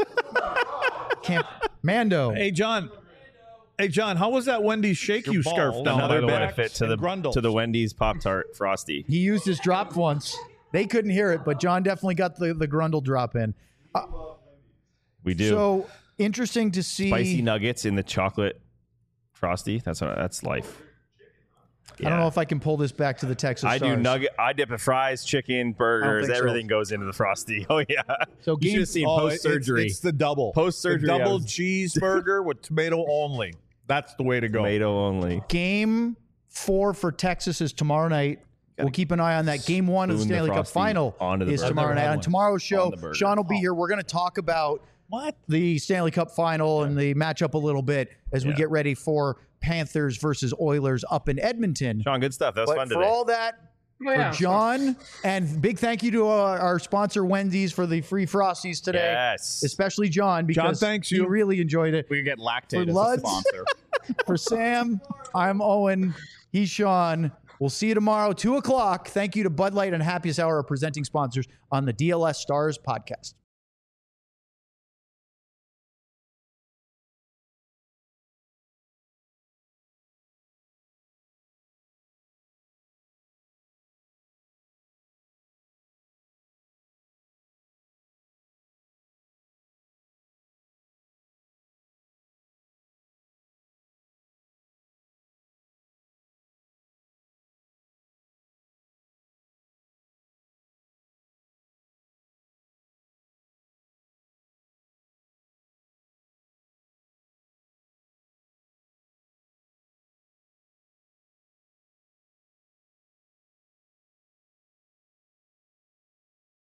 Mando. Hey John, how was that Wendy's shake you scarf down? Another by the way? benefit to the Wendy's Pop-Tart Frosty. He used his drop once. They couldn't hear it, but John definitely got the Grundle drop in. We do. So interesting to see. Spicy nuggets in the chocolate Frosty. That's life. I don't know if I can pull this back to the Texas I Stars. do nugget. I dip it fries, chicken, burgers. think so. Everything goes into the Frosty. Oh yeah. So You should have seen post surgery. It's the double. Post-surgery, The I double was- cheeseburger with tomato only. That's the way to go. Tomato only. Game 4 for Texas is tomorrow night. We'll keep an eye on that. Game 1 of the spoon the Stanley Cup Frosty final onto the is burger. tomorrow I've never night. had On one. tomorrow's show, On the burger. Sean will be here. We're going to talk about What? the Stanley Cup final and the matchup a little bit as we get ready for Panthers versus Oilers up in Edmonton. Sean, good stuff. That was But fun for today. all that, for John, and big thank you to our sponsor Wendy's for the free Frosties today. Yes. Especially John, because thanks he you. really enjoyed it. We could get For Lactate as a Luds. sponsor. For Sam, I'm Owen. He's Sean. We'll see you tomorrow, 2 o'clock. Thank you to Bud Light and Happiest Hour, our presenting sponsors on the DLS Stars podcast.